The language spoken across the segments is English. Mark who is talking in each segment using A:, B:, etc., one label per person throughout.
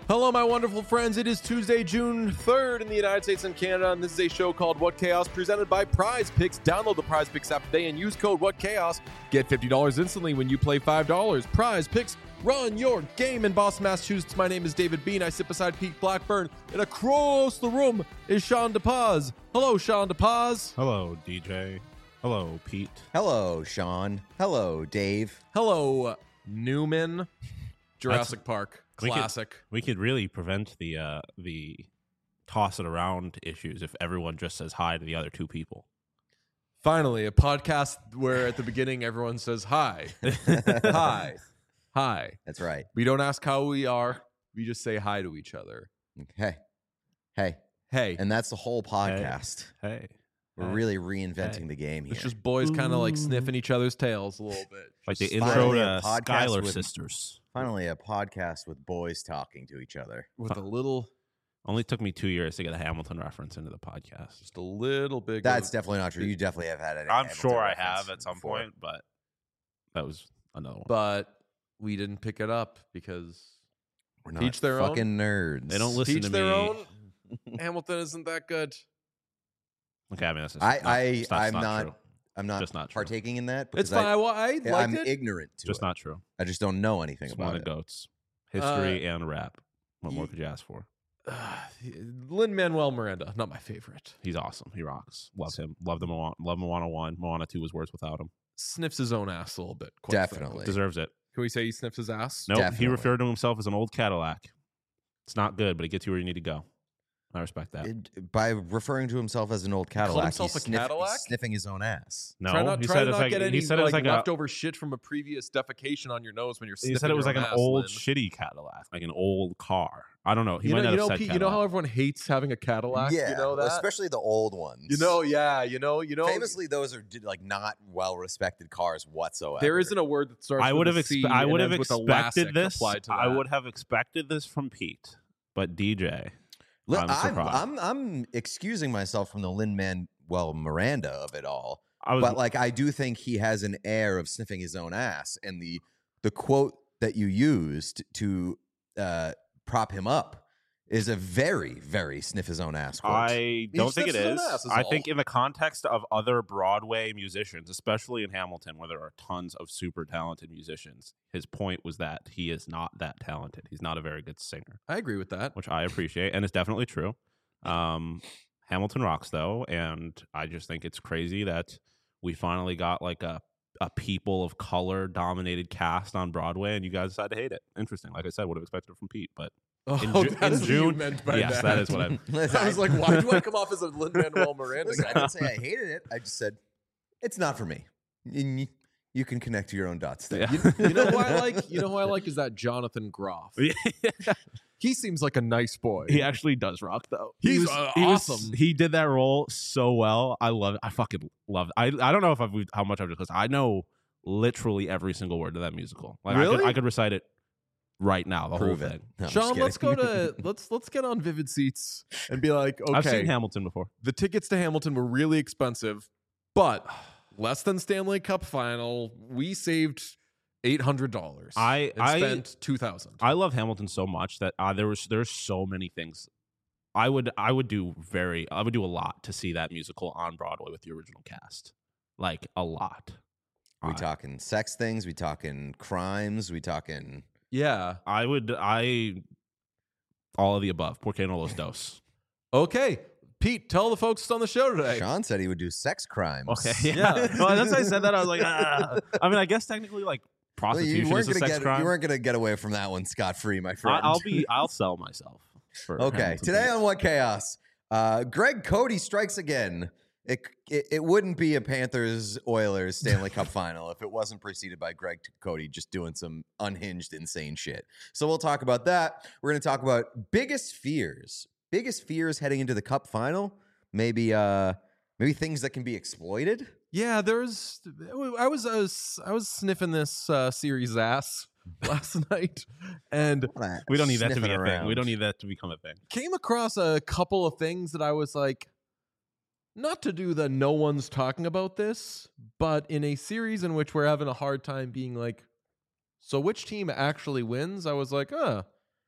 A: Hello, my wonderful friends. It is Tuesday, June 3rd in the United States and Canada, and this is a show called What Chaos, presented by Prize Picks. Download the Prize Picks app today and use code What Chaos. Get $50 instantly when you play $5. Prize Picks, run your game. In Boston, Massachusetts, my name is David Bean. I sit beside Pete Blackburn, and across the room is Sean DePaz. Hello, Sean DePaz.
B: Hello, DJ. Hello, Pete.
C: Hello, Sean. Hello, Dave.
A: Hello, Newman. Jurassic Park. Classic.
B: We could really prevent the toss it around issues if everyone just says hi to the other two people.
A: Finally, a podcast where at the beginning everyone says hi. Hi. Hi.
C: That's right.
A: We don't ask how we are. We just say hi to each other.
C: Hey. Hey.
A: Hey.
C: And that's the whole podcast.
B: Hey.
C: We're really reinventing the game here.
A: It's just boys kind of like sniffing each other's tails a little bit.
B: Like the
C: Just
B: intro
C: finally
B: to
C: a podcast
B: Skylar
C: with-
B: Sisters.
C: Finally, a podcast with boys talking to each other.
A: With a little,
B: Only took me 2 years to get a Hamilton reference into the podcast.
A: just a little bit.
C: That's definitely not true. You definitely have had it.
B: I'm sure I have at some point, but that was another one.
A: But we didn't pick it up because
C: We're not
A: Teach their own.
C: fucking nerds.
B: They don't listen
A: teach
B: to
A: their
B: me.
A: own. Hamilton isn't that good.
B: Okay, I mean, that's just
C: I'm not.
B: true.
C: I'm not
B: Just not true.
C: partaking in that.
A: It's
C: because
A: fine. I liked
C: I'm
A: it.
C: ignorant to
B: Just
C: it.
B: not true.
C: I just don't know anything
B: It's one
C: about
B: of the
C: it.
B: goats. History and rap. What more could you ask for?
A: Lin-Manuel Miranda, not my favorite.
B: He's awesome. He rocks. Love him. Love the Moana. Love Moana 1. Moana 2 was worse without him.
A: Sniffs his own ass a little bit. Quite
C: Definitely.
A: frankly.
B: Deserves it.
A: Can we say he sniffs his ass?
B: Nope. He
C: Definitely.
B: referred to himself as an old Cadillac. It's not good, but it gets you where you need to go. I respect that.
C: By referring to himself as an old
A: called
C: Cadillac,
A: himself
C: he's
A: a Cadillac?
C: he's sniffing his own ass.
B: No,
A: Try not,
B: he
A: try
B: said
A: to
B: it's
A: not
B: like
A: get any
B: he said it was like a
A: leftover shit from a previous defecation on your nose when you're sniffing
B: he said it was
A: your
B: like
A: own
B: an
A: ass,
B: old
A: Lin.
B: shitty Cadillac, like an old car. I don't know. He
A: You
B: might
A: know,
B: not have said
A: Pete,
B: Cadillac.
A: you know how everyone hates having a Cadillac?
C: Yeah,
A: You know that?
C: especially the old ones.
A: You know, yeah, you know.
C: Famously, those are like not well-respected cars whatsoever.
A: There isn't a word that starts
B: I would
A: with
B: have
A: a C
B: I
A: and
B: would have
A: ends with a
B: expected
A: LASIK
B: this.
A: applied to
B: I
A: that.
B: would have expected this from Pete, but DJ.
C: Look,
B: I'm surprised.
C: I'm excusing myself from the Lin-Manuel Miranda of it all,
B: I was
C: but like I do think he has an air of sniffing his own ass, and the quote that you used to prop him up is a very, very sniff his own ass quote.
B: I don't think it
A: sniffs his own
B: is.
A: ass is
B: I
A: all.
B: think in the context of other Broadway musicians, especially in Hamilton, where there are tons of super talented musicians, his point was that he is not that talented. He's not a very good singer,
A: I agree with that.
B: which I appreciate, and it's definitely true. Hamilton rocks, though, and I just think it's crazy that we finally got like a people of color dominated cast on Broadway, and you guys decided to hate it. Interesting. Like I said, would have expected it from Pete, but
A: Oh,
B: Ju-
A: that
B: in
A: is what you
B: June-
A: meant by
B: yes, that is what I.
A: I was like, why do I come off as a Lin-Manuel Miranda
C: Listen, I
A: guy?
C: didn't say I hated it. I just said it's not for me. You can connect to your own dots there.
B: Yeah.
A: You know who I like? You know who I like is that Jonathan Groff. He seems like a nice boy.
B: He actually does rock, though.
A: He's awesome.
B: He did that role so well. I love it. I fucking love it. I don't know if how much I've just listened. I know literally every single word of that musical. Like
A: Really?
B: I could recite it right now. The
C: Prove
B: whole
C: it.
B: thing.
C: No, I'm just
A: Sean, let's go
C: kidding.
A: to let's get on Vivid Seats and be like,
B: I've seen
A: okay,
B: Hamilton before.
A: the tickets to Hamilton were really expensive, but less than Stanley Cup final. We saved $800.
B: I
A: spent $2,000.
B: I love Hamilton so much that there's so many things. I would do a lot to see that musical on Broadway with the original cast, like a lot.
C: We talking sex things? We talking crimes? We talking?
A: Yeah.
B: All of the above. Por qué no los dos?
A: Okay, Pete, tell the folks on the show today.
C: Sean said he would do sex crimes.
B: Okay,
A: Yeah.
B: well, that's why I said that. I was like, ah. I mean, I guess technically, like
C: Well,
B: prostitution is a sex crime.
C: You weren't gonna get away from that one scot free, my friend.
B: I'll sell myself. For
C: Okay,
B: Hamilton
C: today
B: tickets.
C: on What Chaos, Greg Cody strikes again. It wouldn't be a Panthers Oilers Stanley Cup final if it wasn't preceded by Greg Cody just doing some unhinged, insane shit. So we'll talk about that. We're going to talk about biggest fears heading into the Cup final. Maybe things that can be exploited.
A: Yeah, I was sniffing this series ass last night and
B: We don't need that to be
C: Sniffing
B: a thing.
C: around.
B: We don't need that to become a thing.
A: came across a couple of things that I was like, not to do the no one's talking about this, but in a series in which we're having a hard time being like, so which team actually wins? I was like, I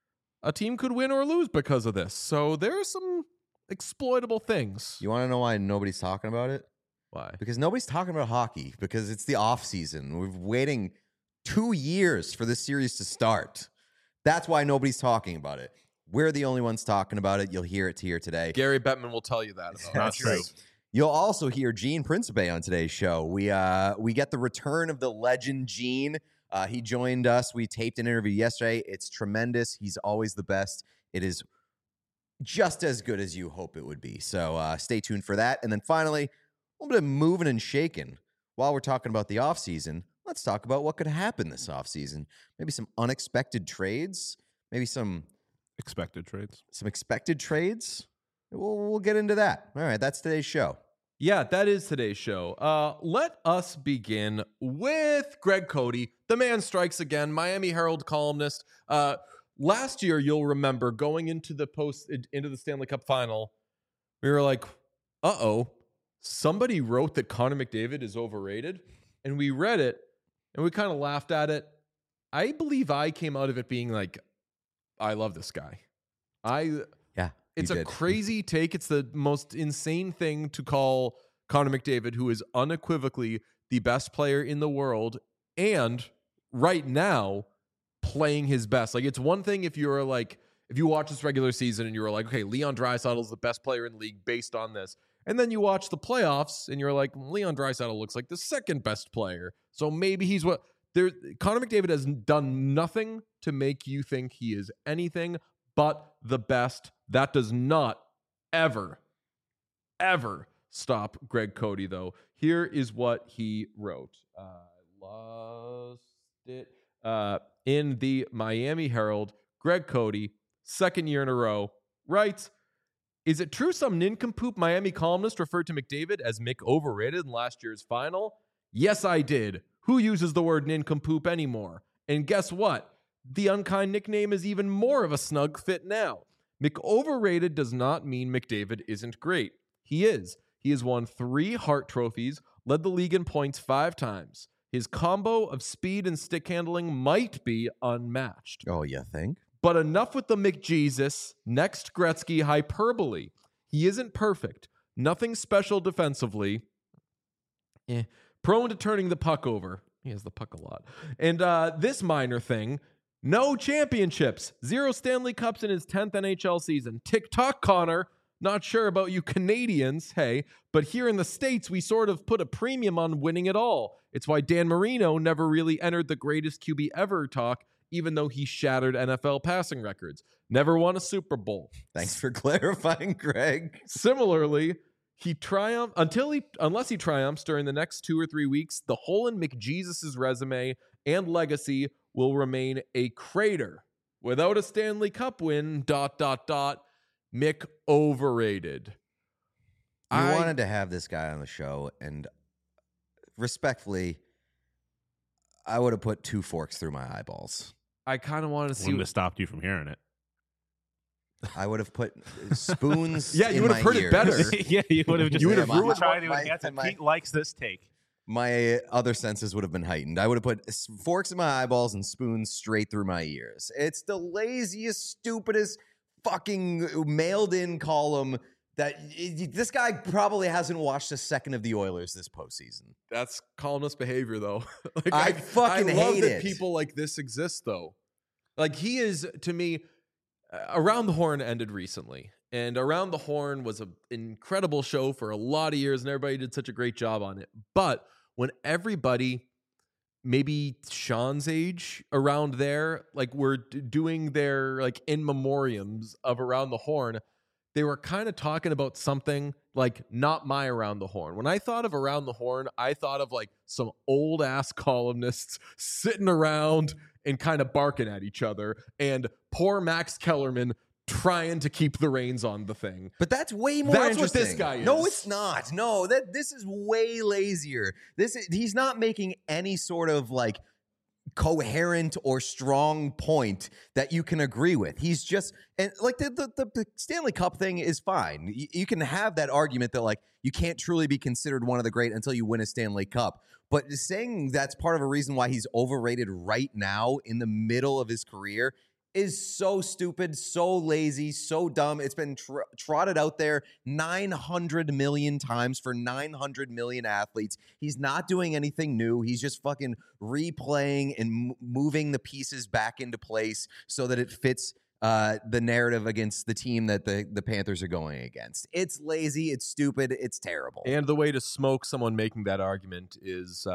A: a team could win or lose because of this. So there are some exploitable things.
C: You want to know why nobody's talking about it?
A: Why?
C: Because nobody's talking about hockey because it's the off season. We're waiting 2 years for this series to start. That's why nobody's talking about it. We're the only ones talking about it. You'll hear it here today.
A: Gary Bettman will tell you that.
C: That's true. You'll also hear Gene Principe on today's show. We get the return of the legend Gene. He joined us. We taped an interview yesterday. It's tremendous. He's always the best. It is just as good as you hope it would be. So stay tuned for that. And then finally, a little bit of moving and shaking. While we're talking about the offseason, let's talk about what could happen this offseason. Maybe some unexpected trades. Maybe some
B: expected trades.
C: Some expected trades. We'll get into that. All right, that's today's show.
A: Yeah, that is today's show. Let us begin with Greg Cody. The man strikes again. Miami Herald columnist. Last year, you'll remember going into the Stanley Cup final, we were like, uh-oh, somebody wrote that Connor McDavid is overrated. And we read it, and we kind of laughed at it. I believe I came out of it being like, I love this guy. It's a crazy take. It's the most insane thing to call Connor McDavid, who is unequivocally the best player in the world, and right now playing his best. Like, it's one thing if you're like, if you watch this regular season and you were like, okay, Leon Draisaitl is the best player in the league based on this. And then you watch the playoffs and you're like, Leon Draisaitl looks like the second best player. So maybe he's what there. Connor McDavid has done nothing to make you think he is anything but the best. That does not ever stop Greg Cody, though. Here is what he wrote. Lost it. In the Miami Herald, Greg Cody, second year in a row, writes, is it true some nincompoop Miami columnist referred to McDavid as Mick overrated in last year's final? Yes, I did. Who uses the word nincompoop anymore? And guess what? The unkind nickname is even more of a snug fit now. Mick overrated does not mean McDavid isn't great. He is. He has won 3 Hart trophies, led the league in points 5 times. His combo of speed and stick handling might be unmatched.
C: Oh, you think?
A: But enough with the McJesus, next Gretzky hyperbole. He isn't perfect. Nothing special defensively. Prone to turning the puck over. He has the puck a lot. And this minor thing, no championships. 0 Stanley Cups in his 10th NHL season. Tick-tock, Connor. Not sure about you Canadians, hey, but here in the States, we sort of put a premium on winning it all. It's why Dan Marino never really entered the greatest QB ever talk, even though he shattered NFL passing records. Never won a Super Bowl.
C: Thanks for clarifying, Greg.
A: Similarly, he triumphed unless he triumphs during the next 2 or 3 weeks, the hole in McJesus's resume and legacy will remain a crater. Without a Stanley Cup win, ... Mick overrated.
C: I wanted to have this guy on the show, and respectfully, I would have put 2 forks through my eyeballs.
A: I kind of wanted to see.
B: Wouldn't have stopped you from hearing it.
C: I would have put spoons.
A: Yeah, you would have heard
C: ears.
A: it better.
B: Yeah, you would have just.
A: You would have ruined.
B: Trying to enhance it. Pete likes this take.
C: My other senses would have been heightened. I would have put forks in my eyeballs and spoons straight through my ears. It's the laziest, stupidest, fucking mailed-in column that this guy probably hasn't watched a second of the Oilers this postseason.
A: That's columnist behavior, though. Like,
C: I fucking
A: love
C: hate
A: that
C: it.
A: people like this exist, though. Like, he is, to me, Around the Horn ended recently. And Around the Horn was an incredible show for a lot of years, and everybody did such a great job on it. But when everybody, maybe Sean's age around there, like, were doing their, like, in memoriams of Around the Horn, they were kind of talking about something like not my Around the Horn. When I thought of Around the Horn, I thought of like some old ass columnists sitting around and kind of barking at each other, and poor Max Kellerman trying to keep the reins on the thing.
C: But that's way more
A: That's
C: interesting.
A: what this guy is.
C: No, it's not. No, this is way lazier. He's not making any sort of like coherent or strong point that you can agree with. He's just, and like the Stanley Cup thing is fine. You can have that argument that like you can't truly be considered one of the great until you win a Stanley Cup. But saying that's part of a reason why he's overrated right now in the middle of his career is so stupid, so lazy, so dumb. It's been trotted out there 900 million times for 900 million athletes. He's not doing anything new. He's just fucking replaying and moving the pieces back into place so that it fits the narrative against the team that the Panthers are going against. It's lazy, it's stupid, it's terrible.
A: And the way to smoke someone making that argument is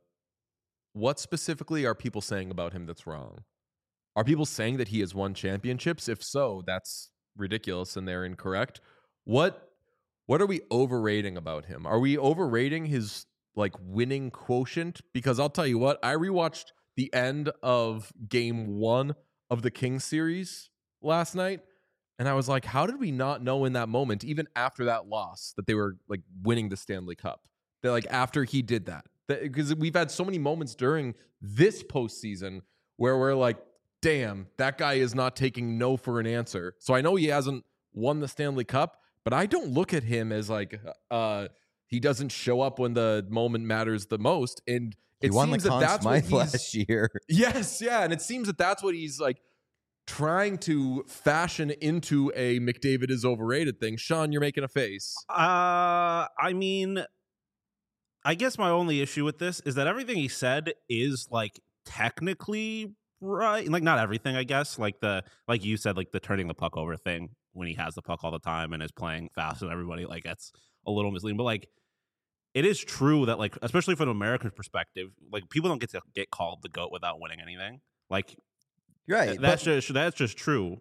A: what specifically are people saying about him that's wrong? Are people saying that he has won championships? If so, that's ridiculous and they're incorrect. What are we overrating about him? Are we overrating his like winning quotient? Because I'll tell you what, I rewatched the end of game 1 of the Kings series last night, and I was like, how did we not know in that moment, even after that loss, that they were like winning the Stanley Cup? That like after he did that, because we've had so many moments during this postseason where we're like, damn, that guy is not taking no for an answer. So I know he hasn't won the Stanley Cup, but I don't look at him as like he doesn't show up when the moment matters the most. And it seems that that's what he's
C: last year.
A: Yes, yeah, and it seems that that's what he's like trying to fashion into a McDavid is overrated thing. Sean, you're making a face.
B: I mean, I guess my only issue with this is that everything he said is like technically right. Like not everything, I guess. Like you said, like the turning the puck over thing when he has the puck all the time and is playing faster than everybody. Like that's a little misleading. But like it is true that like, especially from an American perspective, like people don't get to get called the GOAT without winning anything. Like
C: right.
B: That's just true.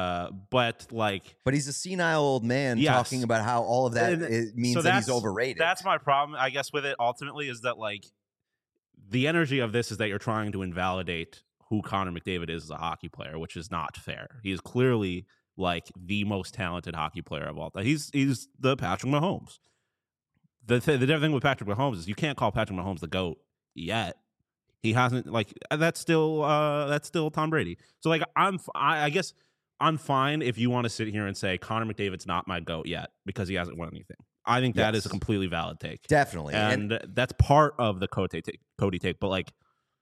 B: But
C: he's a senile old man talking about how all of that means that he's overrated.
B: That's my problem, I guess, with it ultimately is that like the energy of this is that you're trying to invalidate who Connor McDavid is as a hockey player, which is not fair. He is clearly like the most talented hockey player of all time. He's the Patrick Mahomes. The different thing with Patrick Mahomes is you can't call Patrick Mahomes the GOAT yet. He hasn't like that's still Tom Brady. So like I guess I'm fine if you want to sit here and say Connor McDavid's not my GOAT yet because he hasn't won anything. I think that is a completely valid take.
C: Definitely.
B: And that's part of the Cody take. But like,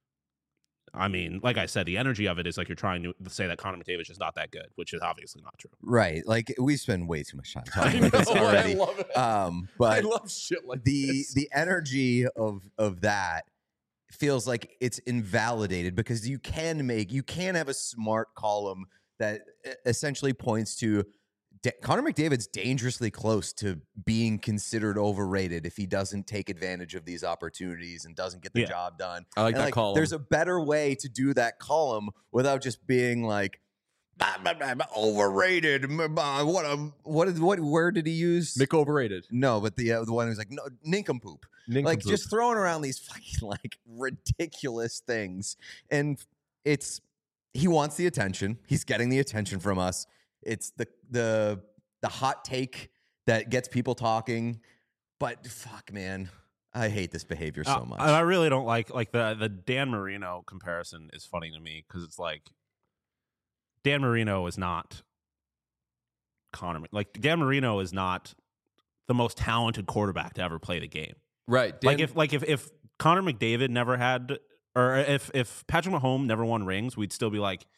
B: I mean, like I said, the energy of it is like you're trying to say that Connor McDavid's just not that good, which is obviously not true.
C: Right. Like we spend way too much time talking about this already.
A: I love it.
C: But
A: I love shit like this.
C: The energy of that feels like it's invalidated because you can have a smart column that essentially points to Connor McDavid's dangerously close to being considered overrated if he doesn't take advantage of these opportunities and doesn't get the job done.
A: I like that column.
C: There's a better way to do that column without just being like overrated. What word did he use?
A: Mick overrated.
C: No, but the one who's like no, nincompoop. Like just throwing around these fucking like ridiculous things, and he wants the attention. He's getting the attention from us. It's the hot take that gets people talking, but fuck, man, I hate this behavior so much.
B: I really don't like the Dan Marino comparison is funny to me because it's like Dan Marino is not Connor. Like Dan Marino is not the most talented quarterback to ever play the game.
A: Right.
B: If Connor McDavid never had, or if Patrick Mahomes never won rings, we'd still be like,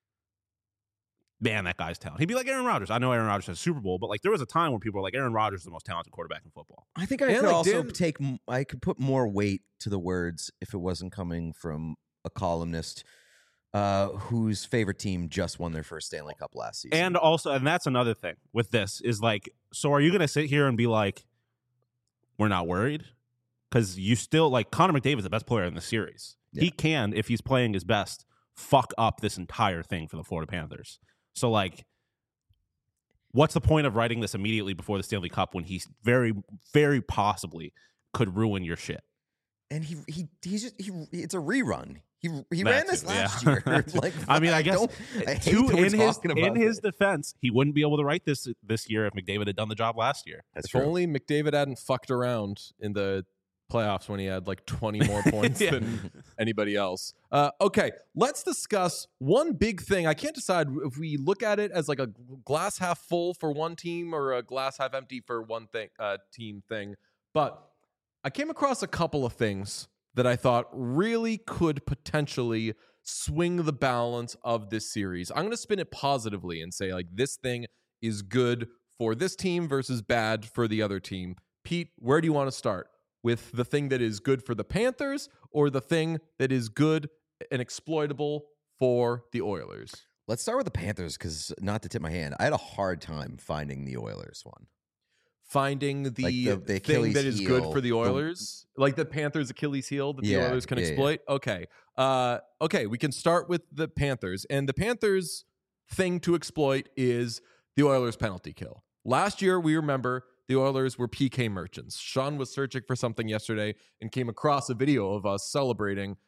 B: man, that guy's talented. He'd be like Aaron Rodgers. I know Aaron Rodgers has a Super Bowl, but like there was a time when people were like, Aaron Rodgers is the most talented quarterback in football.
C: I think I could put more weight to the words if it wasn't coming from a columnist whose favorite team just won their first Stanley Cup last season.
B: And that's another thing with this is like, so are you going to sit here and be like, we're not worried? Because you still like Connor McDavid's the best player in the series. Yeah. He can, if he's playing his best, fuck up this entire thing for the Florida Panthers. So, like, what's the point of writing this immediately before the Stanley Cup when he very, very possibly could ruin your shit?
C: And it's a rerun. He ran this last year. Like,
B: I mean, I guess
C: in
B: his defense, he wouldn't be able to write this year if McDavid had done the job last year.
A: If only McDavid hadn't fucked around in the playoffs when he had like 20 more points than anybody else. Okay, let's discuss one big thing. I can't decide if we look at it as like a glass half full for one team or a glass half empty for one thing, team thing. But I came across a couple of things that I thought really could potentially swing the balance of this series. I'm going to spin it positively and say, like, this thing is good for this team versus bad for the other team. Pete, where do you want to start? With the thing that is good for the Panthers or the thing that is good and exploitable for the Oilers?
C: Let's start with the Panthers because, not to tip my hand, I had a hard time finding the Oilers one.
A: Finding the thing
C: Achilles
A: that is
C: heel,
A: good for the Oilers, like the Panthers' Achilles heel that the Oilers can exploit. Okay, okay, we can start with the Panthers, and the Panthers' thing to exploit is the Oilers' penalty kill. Last year, we remember the Oilers were PK merchants. Sean was searching for something yesterday and came across a video of us celebrating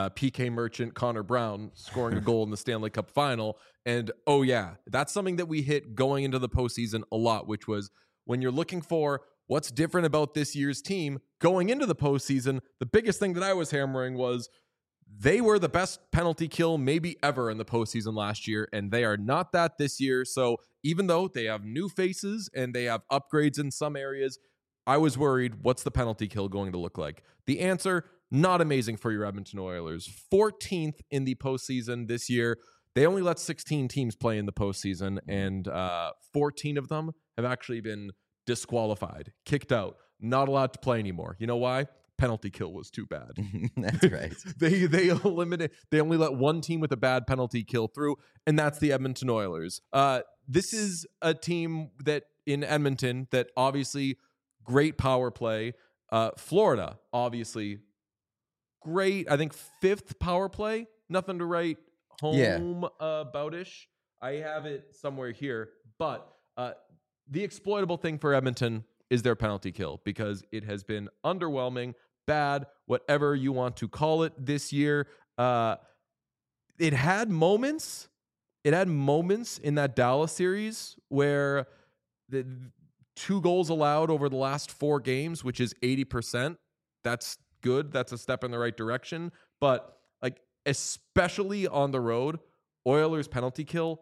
A: PK merchant Connor Brown scoring a goal in the Stanley Cup final. And oh yeah, that's something that we hit going into the postseason a lot, which was when you're looking for what's different about this year's team going into the postseason, the biggest thing that I was hammering was they were the best penalty kill maybe ever in the postseason last year, and they are not that this year. So even though they have new faces and they have upgrades in some areas, I was worried, what's the penalty kill going to look like? The answer, not amazing for your Edmonton Oilers. 14th in the postseason this year. They only let 16 teams play in the postseason, and 14 of them have actually been disqualified, kicked out, not allowed to play anymore. You know why? Penalty kill was too bad.
C: That's right.
A: They only let one team with a bad penalty kill through, and that's the Edmonton Oilers. This is a team that in Edmonton that obviously great power play. Florida, obviously great. I think 5th power play. Nothing to write home about-ish. I have it somewhere here, but the exploitable thing for Edmonton is their penalty kill because it has been underwhelming, bad, whatever you want to call it this year. It had moments. It had moments in that Dallas series where the 2 goals allowed over the last 4 games, which is 80%. That's good. That's a step in the right direction. But like, especially on the road, Oilers penalty kill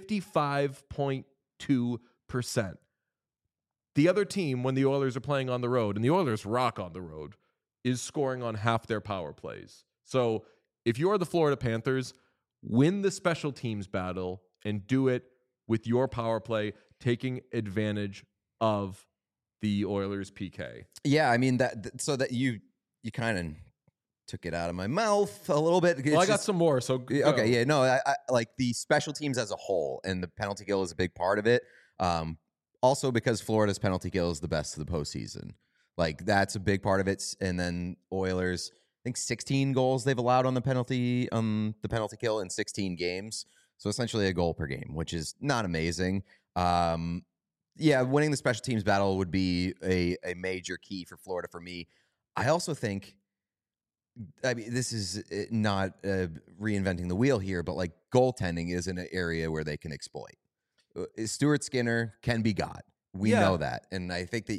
A: 55.2%. The other team, when the Oilers are playing on the road, and the Oilers rock on the road, is scoring on half their power plays. So if you're the Florida Panthers, win the special teams battle and do it with your power play, taking advantage of the Oilers PK.
C: Yeah, I mean so that you kind of took it out of my mouth a little bit.
A: Well, I got some more. So go.
C: Okay, yeah, no, I like the special teams as a whole, and the penalty kill is a big part of it. Also because Florida's penalty kill is the best of the postseason. Like, that's a big part of it. And then Oilers, I think 16 goals they've allowed on the penalty kill in 16 games. So essentially a goal per game, which is not amazing. Yeah, winning the special teams battle would be a major key for Florida for me. I also think, I mean, this is not reinventing the wheel here, but like, goaltending is an area where they can exploit. Stuart Skinner can be got. We know that. And I think that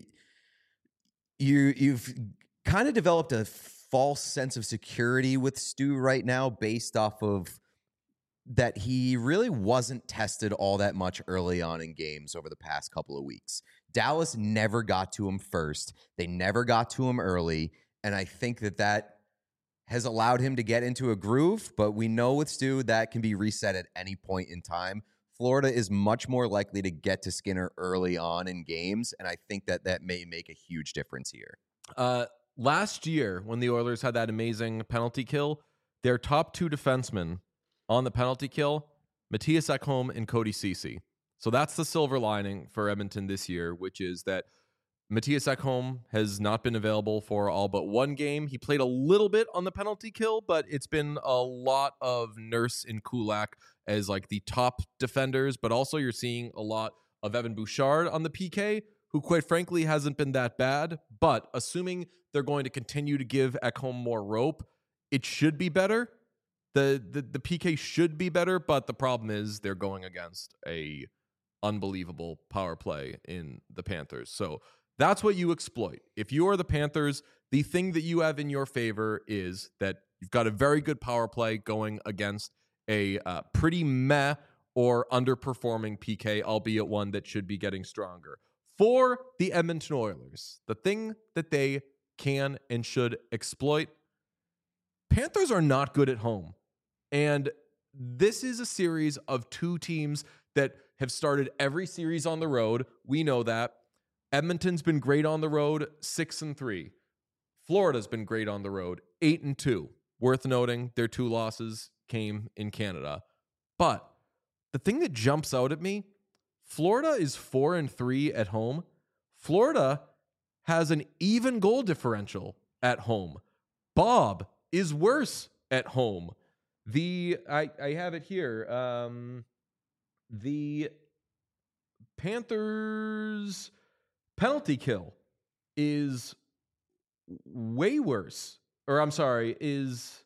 C: you've kind of developed a false sense of security with Stu right now based off of that he really wasn't tested all that much early on in games over the past couple of weeks. Dallas never got to him first. They never got to him early. And I think that has allowed him to get into a groove. But we know with Stu that can be reset at any point in time. Florida is much more likely to get to Skinner early on in games, and I think that may make a huge difference here.
A: Last year, when the Oilers had that amazing penalty kill, their top 2 defensemen on the penalty kill, Matthias Ekholm and Cody Ceci. So that's the silver lining for Edmonton this year, which is that Matthias Ekholm has not been available for all but 1 game. He played a little bit on the penalty kill, but it's been a lot of Nurse and Kulak as like the top defenders, but also you're seeing a lot of Evan Bouchard on the PK, who quite frankly hasn't been that bad. But assuming they're going to continue to give Ekholm more rope, it should be better. The PK should be better, but the problem is they're going against a unbelievable power play in the Panthers. So that's what you exploit. If you are the Panthers, the thing that you have in your favor is that you've got a very good power play going against a pretty meh or underperforming PK, albeit one that should be getting stronger. For the Edmonton Oilers, the thing that they can and should exploit Panthers are not good at home. And this is a series of two teams that have started every series on the road. We know that. Edmonton's been great on the road, 6-3. Florida's been great on the road, 8-2. Worth noting, their 2 losses came in Canada. But the thing that jumps out at me, Florida is 4-3 at home. Florida has an even goal differential at home. Bob is worse at home. I have it here. The Panthers' penalty kill is way worse. Or I'm sorry, is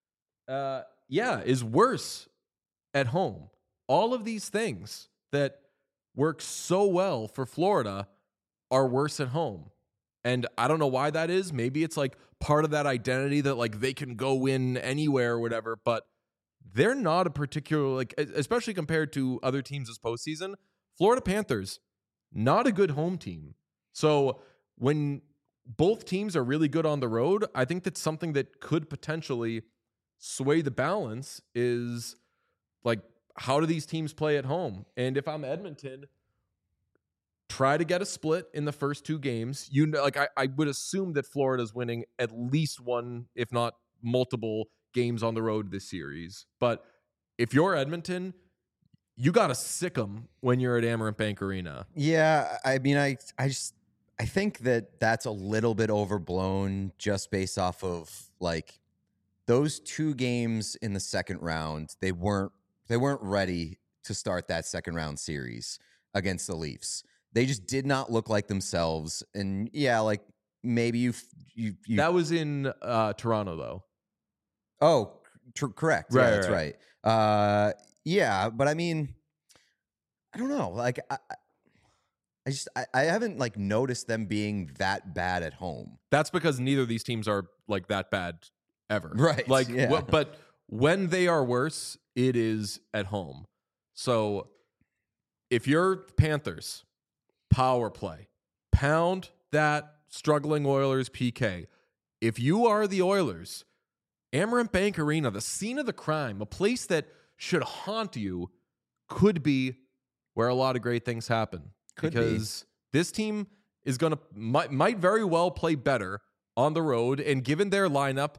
A: worse at home. All of these things that work so well for Florida are worse at home. And I don't know why that is. Maybe it's like part of that identity that like they can go in anywhere or whatever, but they're not a particular, like, especially compared to other teams this postseason. Florida Panthers, not a good home team. So when both teams are really good on the road, I think that's something that could potentially sway the balance is like, how do these teams play at home? And if I'm Edmonton, try to get a split in the first 2 games. You know, like I would assume that Florida's winning at least one, if not multiple games on the road this series. But if you're Edmonton, you got to sick them when you're at Amerant Bank Arena.
C: Yeah, I mean, I think that that's a little bit overblown just based off of like those 2 games in the second round. They weren't ready to start that second round series against the Leafs. They just did not look like themselves. And yeah, like maybe you
A: that was in Toronto though.
C: Oh, correct.
A: Right,
C: Yeah, that's right. Yeah, but I mean, I don't know. Like I haven't like noticed them being that bad at home.
A: That's because neither of these teams are like that bad ever.
C: Right.
A: Like,
C: yeah.
A: But when they are worse, it is at home. So if you're Panthers, power play, pound that struggling Oilers PK. If you are the Oilers, Amerant Bank Arena, the scene of the crime, a place that should haunt you, could be where a lot of great things happen. Because this team is might very well play better on the road, and given their lineup,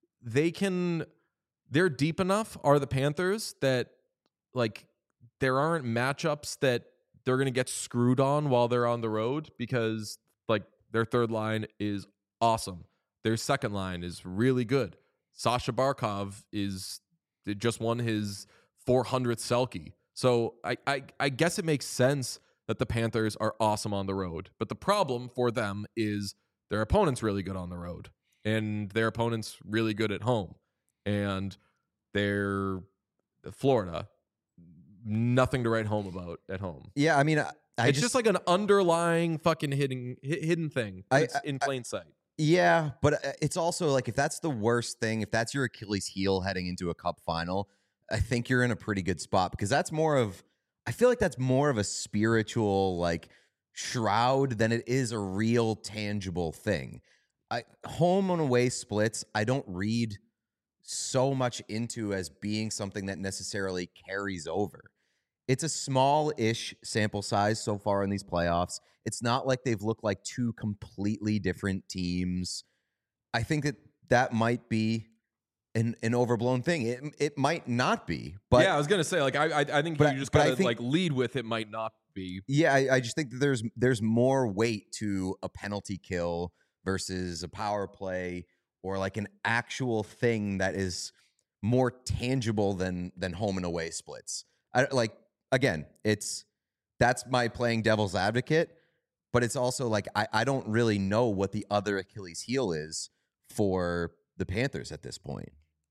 A: they're deep enough, are the Panthers, that like there aren't matchups that they're going to get screwed on while they're on the road, because like their third line is awesome. Their second line is really good. Sasha Barkov just won his 400th Selke. So I guess it makes sense that the Panthers are awesome on the road. But the problem for them is their opponent's really good on the road, and their opponent's really good at home. And they're Florida, nothing to write home about at home.
C: Yeah, I mean,
A: it's just like an underlying fucking hidden thing. It's in plain sight.
C: Yeah, but it's also like if that's the worst thing, if that's your Achilles heel heading into a cup final, I think you're in a pretty good spot, because I feel like that's more of a spiritual like shroud than it is a real tangible thing. Home and away splits, I don't read so much into as being something that necessarily carries over. It's a small-ish sample size so far in these playoffs. It's not like they've looked like 2 completely different teams. I think that might be an overblown thing. It might not be, but
A: yeah, I was gonna say like I think you just gotta like lead with it might not be.
C: Yeah, I just think that there's more weight to a penalty kill versus a power play, or like an actual thing that is more tangible than home and away splits. Again, that's my playing devil's advocate, but it's also like I don't really know what the other Achilles heel is for the Panthers at this point.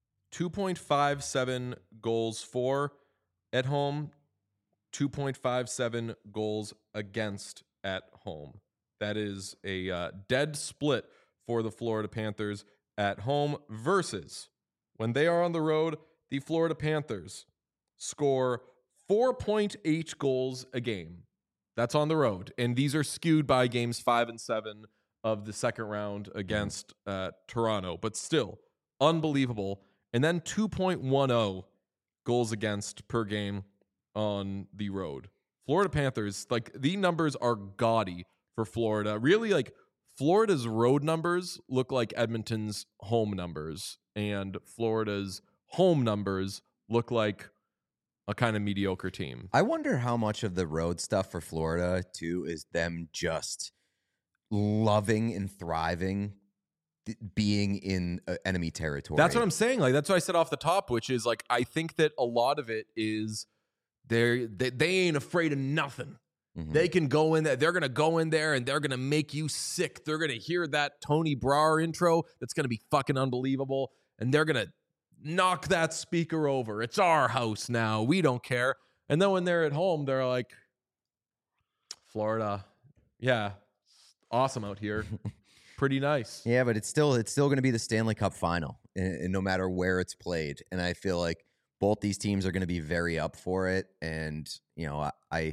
A: 2.57 goals for at home, 2.57 goals against at home. That is a dead split for the Florida Panthers at home, versus when they are on the road, the Florida Panthers score 4.8 goals a game. That's on the road. And these are skewed by games 5 and 7 of the second round against Toronto. But still, unbelievable. And then 2.10 goals against per game on the road. Florida Panthers, like, the numbers are gaudy for Florida. Really, like, Florida's road numbers look like Edmonton's home numbers, and Florida's home numbers look like a kind of mediocre team.
C: I wonder how much of the road stuff for Florida, too, is them just loving and thriving being in enemy territory.
A: That's what I'm saying. Like, that's what I said off the top, which is, like, I think that a lot of it is they ain't afraid of nothing.
C: Mhm.
A: They can go in there. They're going to go in there and they're going to make you sick. They're going to hear that Tony Brouwer intro that's going to be fucking unbelievable. And they're going to knock that speaker over. It's our house now. We don't care. And then when they're at home, they're like, Florida, yeah, awesome out here. Pretty nice.
C: Yeah, but it's still going to be the Stanley Cup final, and no matter where it's played. And I feel like both these teams are going to be very up for it. And you know,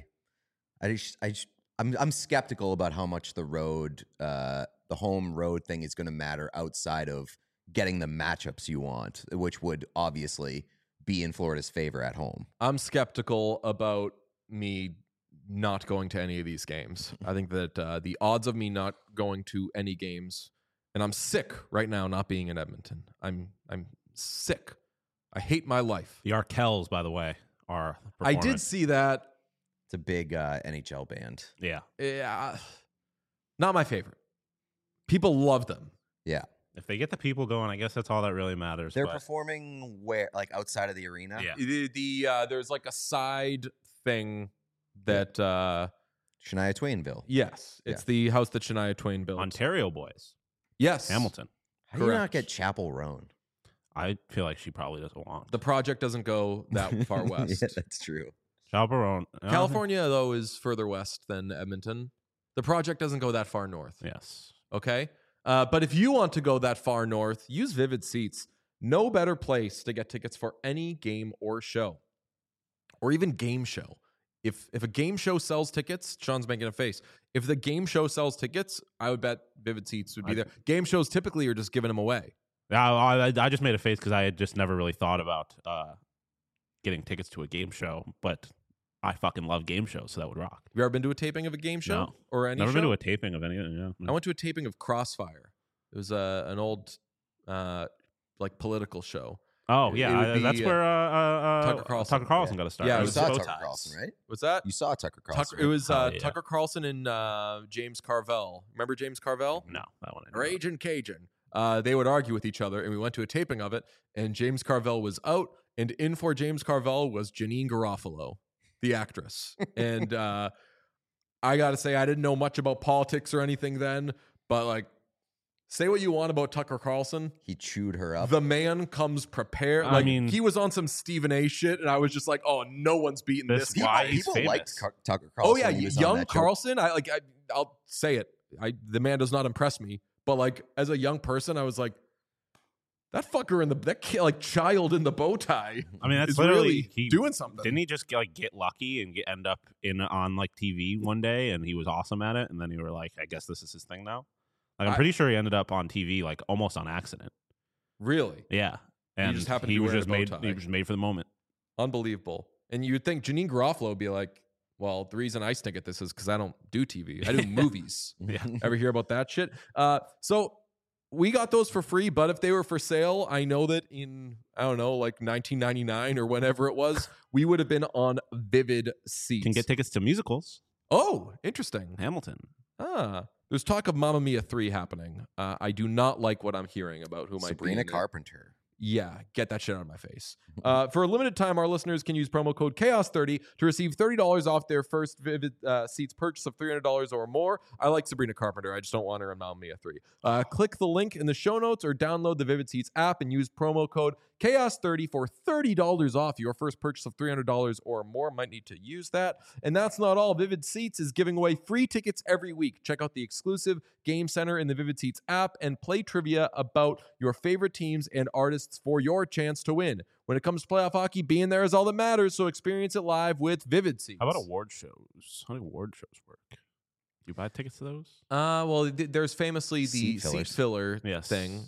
C: I'm skeptical about how much the home road thing is going to matter outside of getting the matchups you want, which would obviously be in Florida's favor at home.
A: I'm skeptical about me not going to any of these games. I think that the odds of me not going to any games, and I'm sick right now not being in Edmonton. I'm sick. I hate my life.
B: The Arkells, by the way, are
A: I
B: performing.
A: did see that.
C: It's a big NHL band.
B: Yeah.
A: Yeah, not my favorite. People love them.
C: Yeah.
B: If they get the people going, I guess that's all that really matters.
C: They're
B: but
C: performing where, like, outside of the arena?
B: Yeah.
A: There's like a side thing that
C: Shania Twainville.
A: yes, it's the house that Shania Twain built.
B: Ontario boys,
A: Yes,
B: Hamilton.
C: How do you not
A: Correct.
C: get Chapel Roan?
B: I feel like she probably doesn't want.
A: The project doesn't go that far west.
C: Yeah, that's true.
B: Chaperone.
A: California, though, is further west than Edmonton. The project doesn't go that far north.
B: Yes.
A: Okay? But if you want to go that far north, use Vivid Seats. No better place to get tickets for any game or show, or even game show. If a game show sells tickets, Sean's making a face. If the game show sells tickets, I would bet Vivid Seats would be there. Game shows typically are just giving them away.
B: I just made a face because I had just never really thought about getting tickets to a game show, but I fucking love game shows, so that would rock.
A: Have you ever been to a taping of a game show
B: No.
A: or any
B: Never
A: show?
B: been to a taping of anything. Yeah.
A: I went to a taping of Crossfire. It was an old like political show.
B: Oh
A: It would
B: yeah,
A: be,
B: that's where
A: Tucker Carlson.
B: got to start.
A: Yeah,
B: It
A: it
C: You
A: was
C: saw
B: bow
C: Tucker
B: ties.
C: Carlson, right?
A: What's that?
C: You saw Tucker Carlson.
A: Tucker, it was
B: Oh, yeah.
A: Tucker Carlson and James Carvell. Remember James Carvell?
B: No, that one. I didn't know.
A: Raging Cajun. They would argue with each other, and we went to a taping of it, and James Carvell was out, and in for James Carvell was Janine Garofalo, the actress. And I got to say, I didn't know much about politics or anything then, but like, say what you want about Tucker Carlson.
C: He chewed her up.
A: The man comes prepared.
B: I
A: Like,
B: mean-
A: he was on some Stephen A shit, and I was just like, oh, no one's beating
B: This
A: this
B: guy-
A: guy.
B: why he's
C: People liked
B: famous.
C: Tucker Carlson.
A: Oh yeah,
C: when he was on
A: young
C: that show.
A: Carlson. I'll say it. The man does not impress me. But like as a young person, I was like, that fucker that child in the bow tie.
B: I mean, that's
A: is
B: literally
A: really
B: he,
A: doing something.
B: Didn't he just get lucky and end up on like TV one day, and he was awesome at it, and then you were like, I guess this is his thing now. Like I'm pretty sure he ended up on TV like almost on accident.
A: Really
B: Yeah, and
A: just happened to
B: he
A: be
B: was
A: wearing
B: just
A: a bow
B: made.
A: tie.
B: He was made for the moment.
A: Unbelievable. And you'd think Janine Garofalo would be like, well, the reason I stink at this is because I don't do TV. I do movies.
B: Yeah.
A: Ever hear about that shit? So we got those for free, but if they were for sale, I know that in, I don't know, like 1999 or whenever it was, we would have been on Vivid Seats.
B: Can get tickets to musicals.
A: Oh, interesting.
B: Hamilton.
A: There's talk of Mamma Mia 3 happening. I do not like what I'm hearing about who might be
C: Sabrina
A: in it.
C: Carpenter.
A: Yeah, get that shit out of my face. For a limited time, our listeners can use promo code CHAOS30 to receive $30 off their first Vivid Seats purchase of $300 or more. I like Sabrina Carpenter. I just don't want her in Mamma Mia 3. Click the link in the show notes or download the Vivid Seats app and use promo code CHAOS30 for $30 off your first purchase of $300 or more. Might need to use that. And that's not all. Vivid Seats is giving away free tickets every week. Check out the exclusive Game Center in the Vivid Seats app and play trivia about your favorite teams and artists for your chance to win. When it comes to playoff hockey, being there is all that matters, so experience it live with Vivid Seats.
B: How about award shows? How do award shows work? Do you buy tickets to those?
A: Well, there's famously the
C: Seat
A: seat
C: fillers.
A: filler
B: Yes.
A: thing.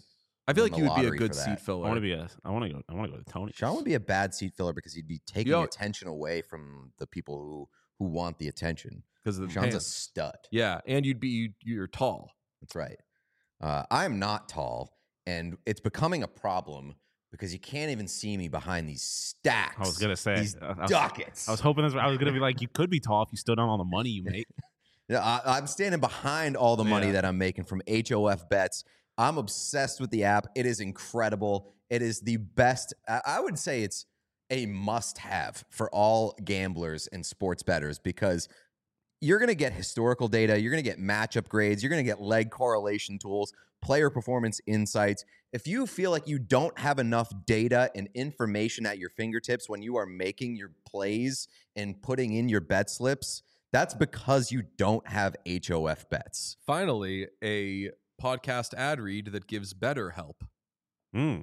A: I feel
C: win
A: like
C: the
A: you would be a
C: lottery
A: good
C: for
A: seat
C: that.
A: filler.
B: I want to go to Tony.
C: Sean would be a bad seat filler because he'd be taking
A: Yo-
C: attention away from the people who want the attention.
A: because of the
C: Sean's a
A: pants.
C: stud.
A: Yeah, and you're tall.
C: That's right. I'm not tall, and it's becoming a problem because you can't even see me behind these stacks.
B: I was gonna say
C: these ducats.
B: I was hoping I was gonna be like, you could be tall if you stood on all the money you make.
C: Yeah, I'm standing behind all the money
A: Yeah.
C: that I'm making from HOF Bets. I'm obsessed with the app. It is incredible. It is the best. I would say it's a must-have for all gamblers and sports bettors because you're going to get historical data. You're going to get matchup grades. You're going to get leg correlation tools, player performance insights. If you feel like you don't have enough data and information at your fingertips when you are making your plays and putting in your bet slips, that's because you don't have HOF Bets.
A: Finally, a podcast ad read that gives better help.
B: Mm.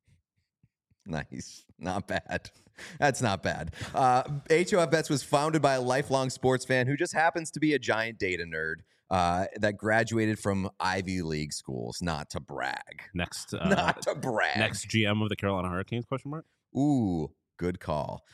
C: Nice. Not bad. That's not bad. HOF Bets was founded by a lifelong sports fan who just happens to be a giant data nerd that graduated from Ivy League schools. Not to brag.
B: Next,
C: Not to brag.
B: next GM of the Carolina Hurricanes? Question mark.
C: Ooh, good call.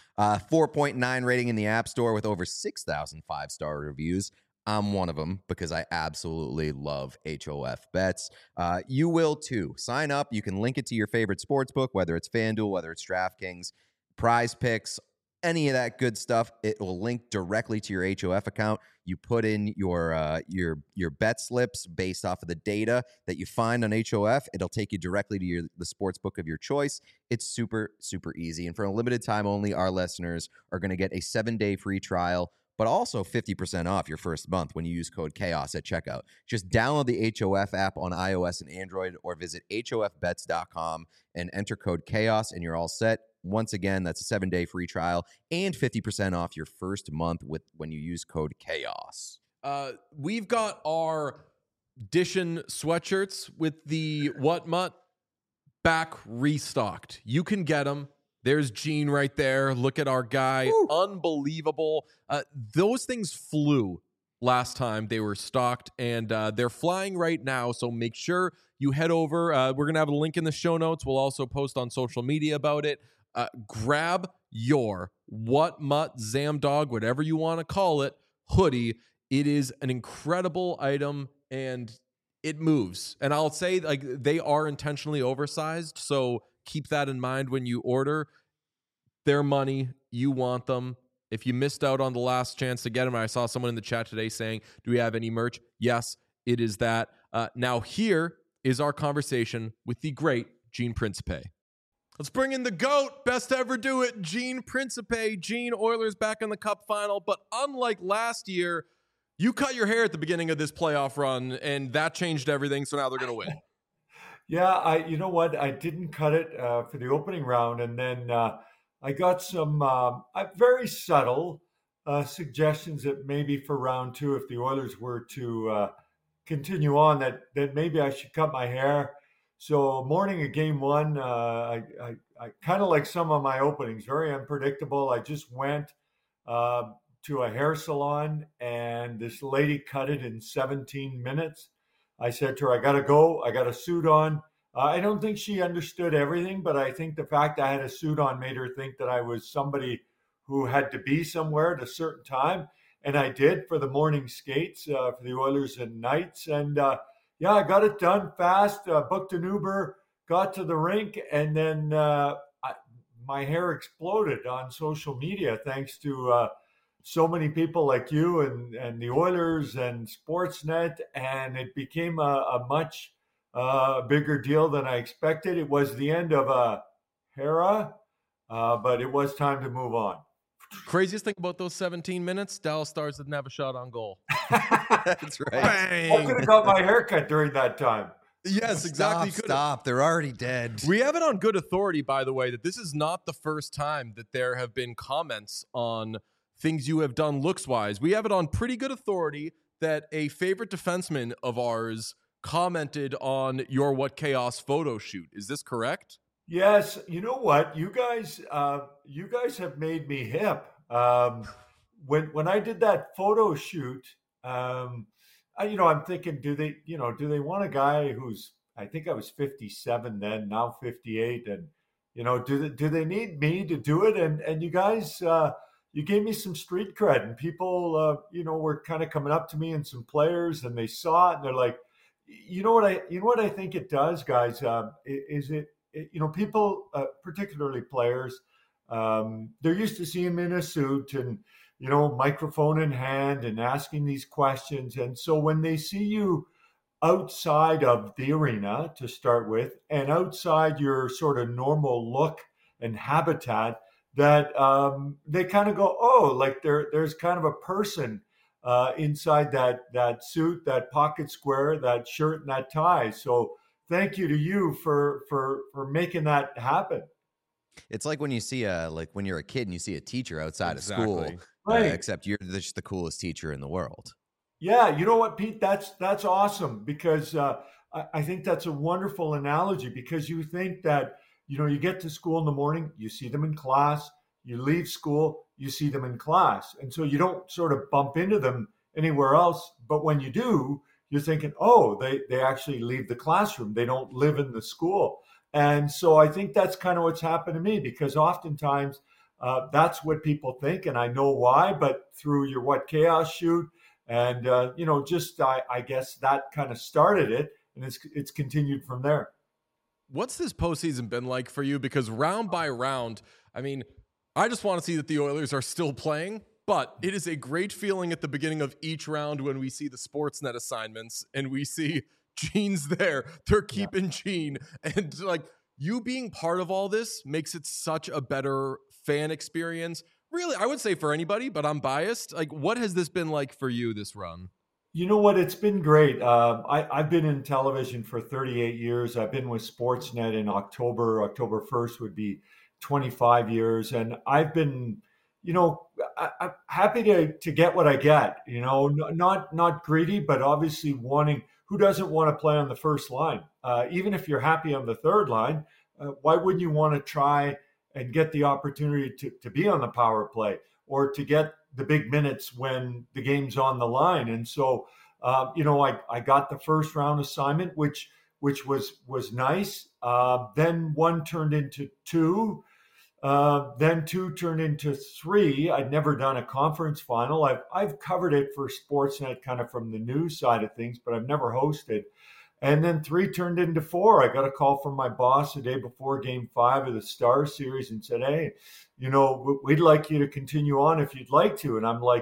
C: 4.9 rating in the App Store with over 6,000 five-star reviews. I'm one of them because I absolutely love HOF Bets. You will too. Sign up. You can link it to your favorite sports book, whether it's FanDuel, whether it's DraftKings, Prize Picks, any of that good stuff. It will link directly to your HOF account. You put in your bet slips based off of the data that you find on HOF. It'll take you directly to the sports book of your choice. It's super, super easy. And for a limited time only, our listeners are going to get a 7-day free trial, but also 50% off your first month when you use code CHAOS at checkout. Just download the HOF app on iOS and Android or visit hofbets.com and enter code CHAOS and you're all set. Once again, that's a 7-day free trial and 50% off your first month when you use code CHAOS.
A: We've got our Dishon sweatshirts with the What Mutt back restocked. You can get them. There's Gene right there. Look at our guy.
C: Woo.
A: Unbelievable. Those things flew last time they were stocked, and they're flying right now. So make sure you head over. We're going to have a link in the show notes. We'll also post on social media about it. Grab your What Mutt Zamdog, whatever you want to call it, hoodie. It is an incredible item, and it moves. And I'll say, like, they are intentionally oversized, so keep that in mind when you order. Their money, you want them. If you missed out on the last chance to get them, I saw someone in the chat today saying, do we have any merch? Yes, it is that. Now here is our conversation with the great Gene Principe. Let's bring in the GOAT, best to ever do it, Gene Principe. Gene, Oilers back in the Cup final, but unlike last year, you cut your hair at the beginning of this playoff run, and that changed everything, so now they're going to win.
D: Yeah, you know what? I didn't cut it for the opening round, and then I got some very subtle suggestions that maybe for round two, if the Oilers were to continue on, that maybe I should cut my hair. So morning of game one, I kind of like some of my openings, very unpredictable. I just went to a hair salon, and this lady cut it in 17 minutes. I said to her, I got to go. I got a suit on. I don't think she understood everything, but I think the fact I had a suit on made her think that I was somebody who had to be somewhere at a certain time. And I did for the morning skates for the Oilers and Knights. And yeah, I got it done fast, booked an Uber, got to the rink, and then my hair exploded on social media thanks to so many people like you and the Oilers and Sportsnet, and it became a much bigger deal than I expected. It was the end of a era, but it was time to move on.
A: Craziest thing about those 17 minutes, Dallas Stars didn't have a shot on goal.
C: That's right.
D: I could have got my haircut during that time.
A: Yes, exactly.
C: Stop. They're already dead.
A: We have it on good authority, by the way, that this is not the first time that there have been comments on things you have done looks-wise. We have it on pretty good authority that a favorite defenseman of ours commented on your What Chaos photo shoot. Is this correct?
D: Yes. You know what? You guys have made me hip. When I did that photo shoot, I'm thinking, do they want a guy who's I think I was 57 then, now 58. And, do they need me to do it? And you guys, you gave me some street cred, and people, were kind of coming up to me, and some players, and they saw it, and they're like, what I think it does, guys, is people, particularly players, they're used to seeing me in a suit and, microphone in hand and asking these questions. And so when they see you outside of the arena to start with, and outside your sort of normal look and habitat, that they kind of go, oh, like there's kind of a person inside that suit, that pocket square, that shirt, and that tie. So thank you to you for making that happen.
C: It's like when you see when you're a kid and you see a teacher outside of school,
D: right?
C: Except you're just the coolest teacher in the world.
D: Yeah, you know what, Pete? That's awesome, because I think that's a wonderful analogy, because you think that, you get to school in the morning, you see them in class, you leave school, you see them in class. And so you don't sort of bump into them anywhere else. But when you do, you're thinking, oh, they actually leave the classroom. They don't live in the school. And so I think that's kind of what's happened to me, because oftentimes that's what people think. And I know why, but through your What Chaos shoot, and, I guess that kind of started it, and it's continued from there.
A: What's this postseason been like for you? Because round by round, I mean, I just want to see that the Oilers are still playing, but it is a great feeling at the beginning of each round when we see the Sportsnet assignments and we see Gene's there. They're keeping Gene. And like, you being part of all this makes it such a better fan experience. Really, I would say for anybody, but I'm biased. Like, what has this been like for you, this run?
D: You know what? It's been great. I've been in television for 38 years. I've been with Sportsnet in October 1st would be 25 years. And I've been, I'm happy to get what I get, not greedy, but obviously wanting, who doesn't want to play on the first line? Even if you're happy on the third line, why wouldn't you want to try and get the opportunity to be on the power play, or to get the big minutes when the game's on the line? And so, I got the first round assignment, which was nice. Then one turned into two. Then two turned into three. I'd never done a conference final. I've covered it for Sportsnet kind of from the news side of things, but I've never hosted. And then three turned into four. I got a call from my boss the day before Game 5 of the Star Series and said, hey, we'd like you to continue on if you'd like to. And I'm like,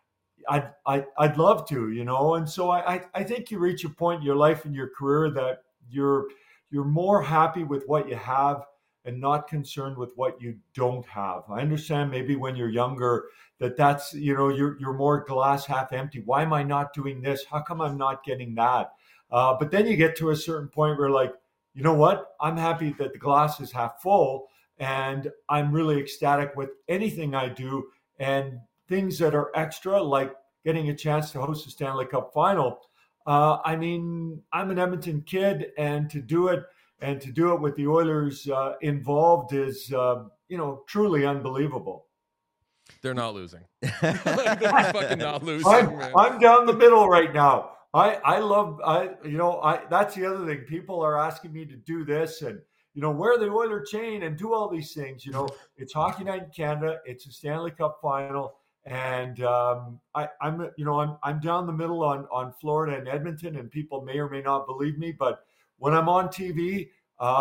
D: I'd love to, And so I think you reach a point in your life and your career that you're more happy with what you have and not concerned with what you don't have. I understand maybe when you're younger that's, you're more glass half empty. Why am I not doing this? How come I'm not getting that? But then you get to a certain point where, like, you know what? I'm happy that the glass is half full, and I'm really ecstatic with anything I do, and things that are extra, like getting a chance to host a Stanley Cup final. I'm an Edmonton kid, and to do it with the Oilers involved is, truly unbelievable.
A: They're not losing. They're fucking not losing.
D: I'm down the middle right now. That's the other thing. People are asking me to do this and, wear the Oiler chain and do all these things. It's Hockey Night in Canada. It's a Stanley Cup final. And I'm down the middle on Florida and Edmonton, and people may or may not believe me, but when I'm on TV,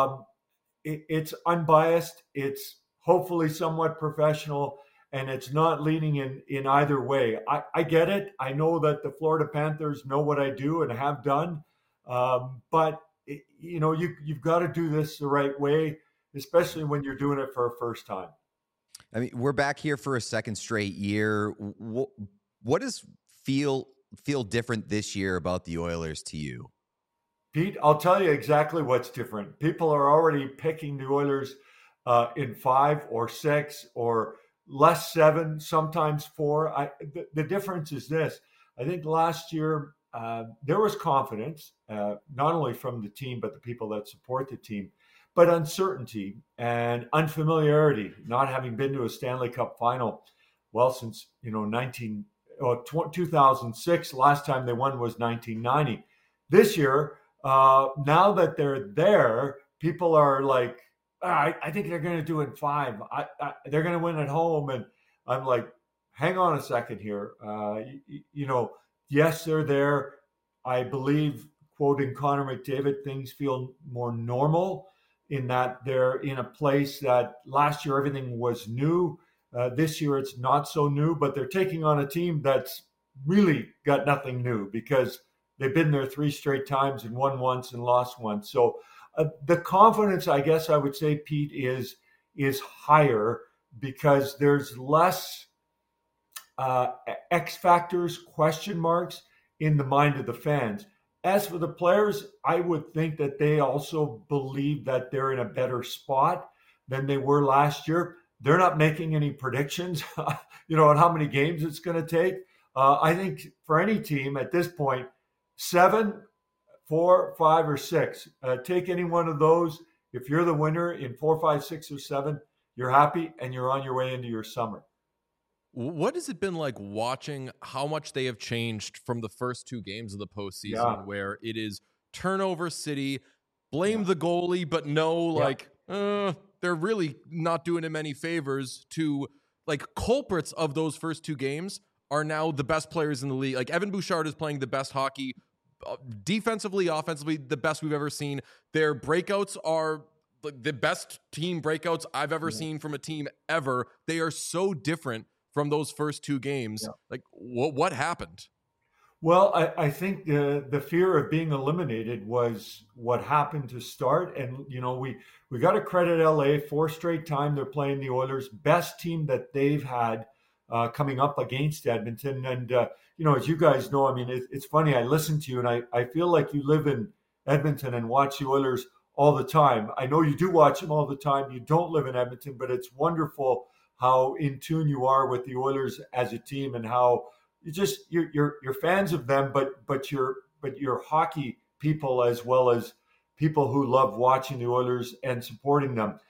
D: it's unbiased. It's hopefully somewhat professional, and it's not leaning in either way. I get it. I know that the Florida Panthers know what I do and have done, but you've got to do this the right way, especially when you're doing it for a first time.
C: I mean, we're back here for a second straight year. What does feel different this year about the Oilers to you?
D: Pete, I'll tell you exactly what's different. People are already picking the Oilers in 5 or 6 or less 7, sometimes 4. The difference is this. I think last year there was confidence, not only from the team, but the people that support the team, but uncertainty and unfamiliarity, not having been to a Stanley Cup final, since 2006. Last time they won was 1990. This year, Now that they're there, people are like, I think they're going to do it in 5. They're going to win at home. And I'm like, hang on a second here. Yes, they're there. I believe, quoting Connor McDavid, things feel more normal in that they're in a place that last year everything was new. This year it's not so new, but they're taking on a team that's really got nothing new because they've been there 3 straight times and won once and lost once. So the confidence, I guess I would say, Pete, is higher because there's less X factors, question marks in the mind of the fans. As for the players, I would think that they also believe that they're in a better spot than they were last year. They're not making any predictions, on how many games it's going to take. I think for any team at this point, 7, 4, 5, or 6, take any one of those. If you're the winner in 4, 5, 6, or 7, you're happy and you're on your way into your summer.
A: What has it been like watching how much they have changed from the first 2 games of the postseason, where it is turnover city, blame the goalie, but they're really not doing him any favors, to like culprits of those first 2 games are now the best players in the league. Like Evan Bouchard is playing the best hockey defensively, offensively, the best we've ever seen. Their breakouts are the best team breakouts I've ever seen from a team ever. They are so different from those first 2 games. Yeah. Like what happened?
D: Well, I think the fear of being eliminated was what happened to start. And, we got to credit LA 4 straight time. They're playing the Oilers, best team that they've had coming up against Edmonton. And, as you guys know, I mean, it's funny. I listen to you and I feel like you live in Edmonton and watch the Oilers all the time. I know you do watch them all the time. You don't live in Edmonton, but it's wonderful how in tune you are with the Oilers as a team and how you're fans of them, but you're hockey people as well as people who love watching the Oilers and supporting them.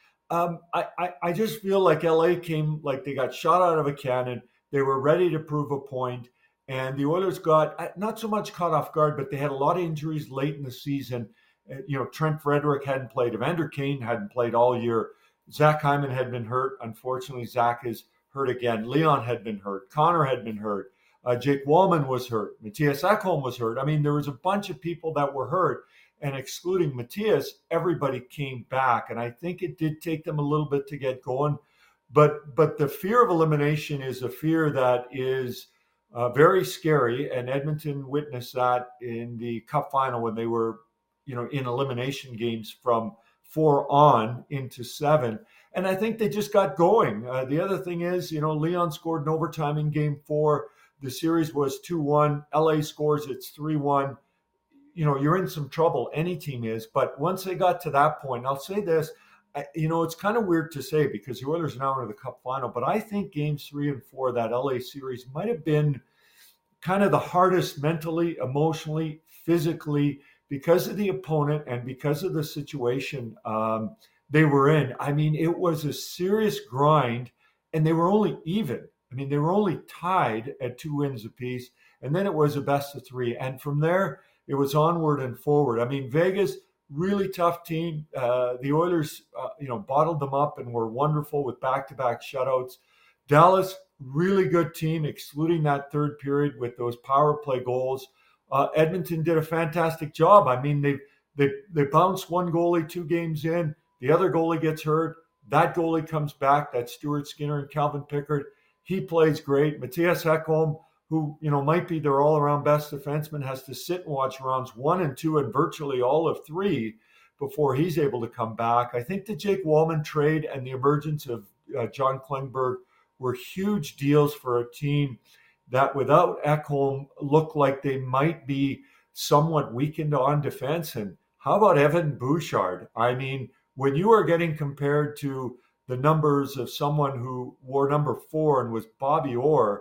D: I just feel like LA came like they got shot out of a cannon. They were ready to prove a point, and the Oilers got not so much caught off guard, but they had a lot of injuries late in the season. Trent Frederick hadn't played. Evander Kane hadn't played all year. Zach Hyman had been hurt. Unfortunately, Zach is hurt again. Leon had been hurt. Connor had been hurt. Jake Wallman was hurt. Matthias Ekholm was hurt. I mean, there was a bunch of people that were hurt. And excluding Matthias, everybody came back. And I think it did take them a little bit to get going. But the fear of elimination is a fear that is very scary. And Edmonton witnessed that in the Cup final when they were, in elimination games from 4 on into 7. And I think they just got going. The other thing is, Leon scored in overtime in game 4. The series was 2-1. LA scores, it's 3-1. You're in some trouble. Any team is. But once they got to that point, I'll say this, it's kind of weird to say because the Oilers are now into the Cup final, but I think games 3 and 4, that LA series might have been kind of the hardest mentally, emotionally, physically, because of the opponent and because of the situation they were in. I mean, it was a serious grind, and they were only even. I mean, they were only tied at 2 wins apiece, and then it was a best of 3. And from there, it was onward and forward. I mean, Vegas, really tough team. The Oilers, bottled them up and were wonderful with back-to-back shutouts. Dallas, really good team, excluding that third period with those power play goals. Edmonton did a fantastic job. I mean, they bounced one goalie 2 games in. The other goalie gets hurt. That goalie comes back. That's Stuart Skinner and Calvin Pickard. He plays great. Matthias Ekholm, who might be their all-around best defenseman, has to sit and watch rounds 1 and 2 and virtually all of 3 before he's able to come back. I think the Jake Wallman trade and the emergence of John Klingberg were huge deals for a team that without Ekholm looked like they might be somewhat weakened on defense. And how about Evan Bouchard? I mean, when you are getting compared to the numbers of someone who wore number 4 and was Bobby Orr,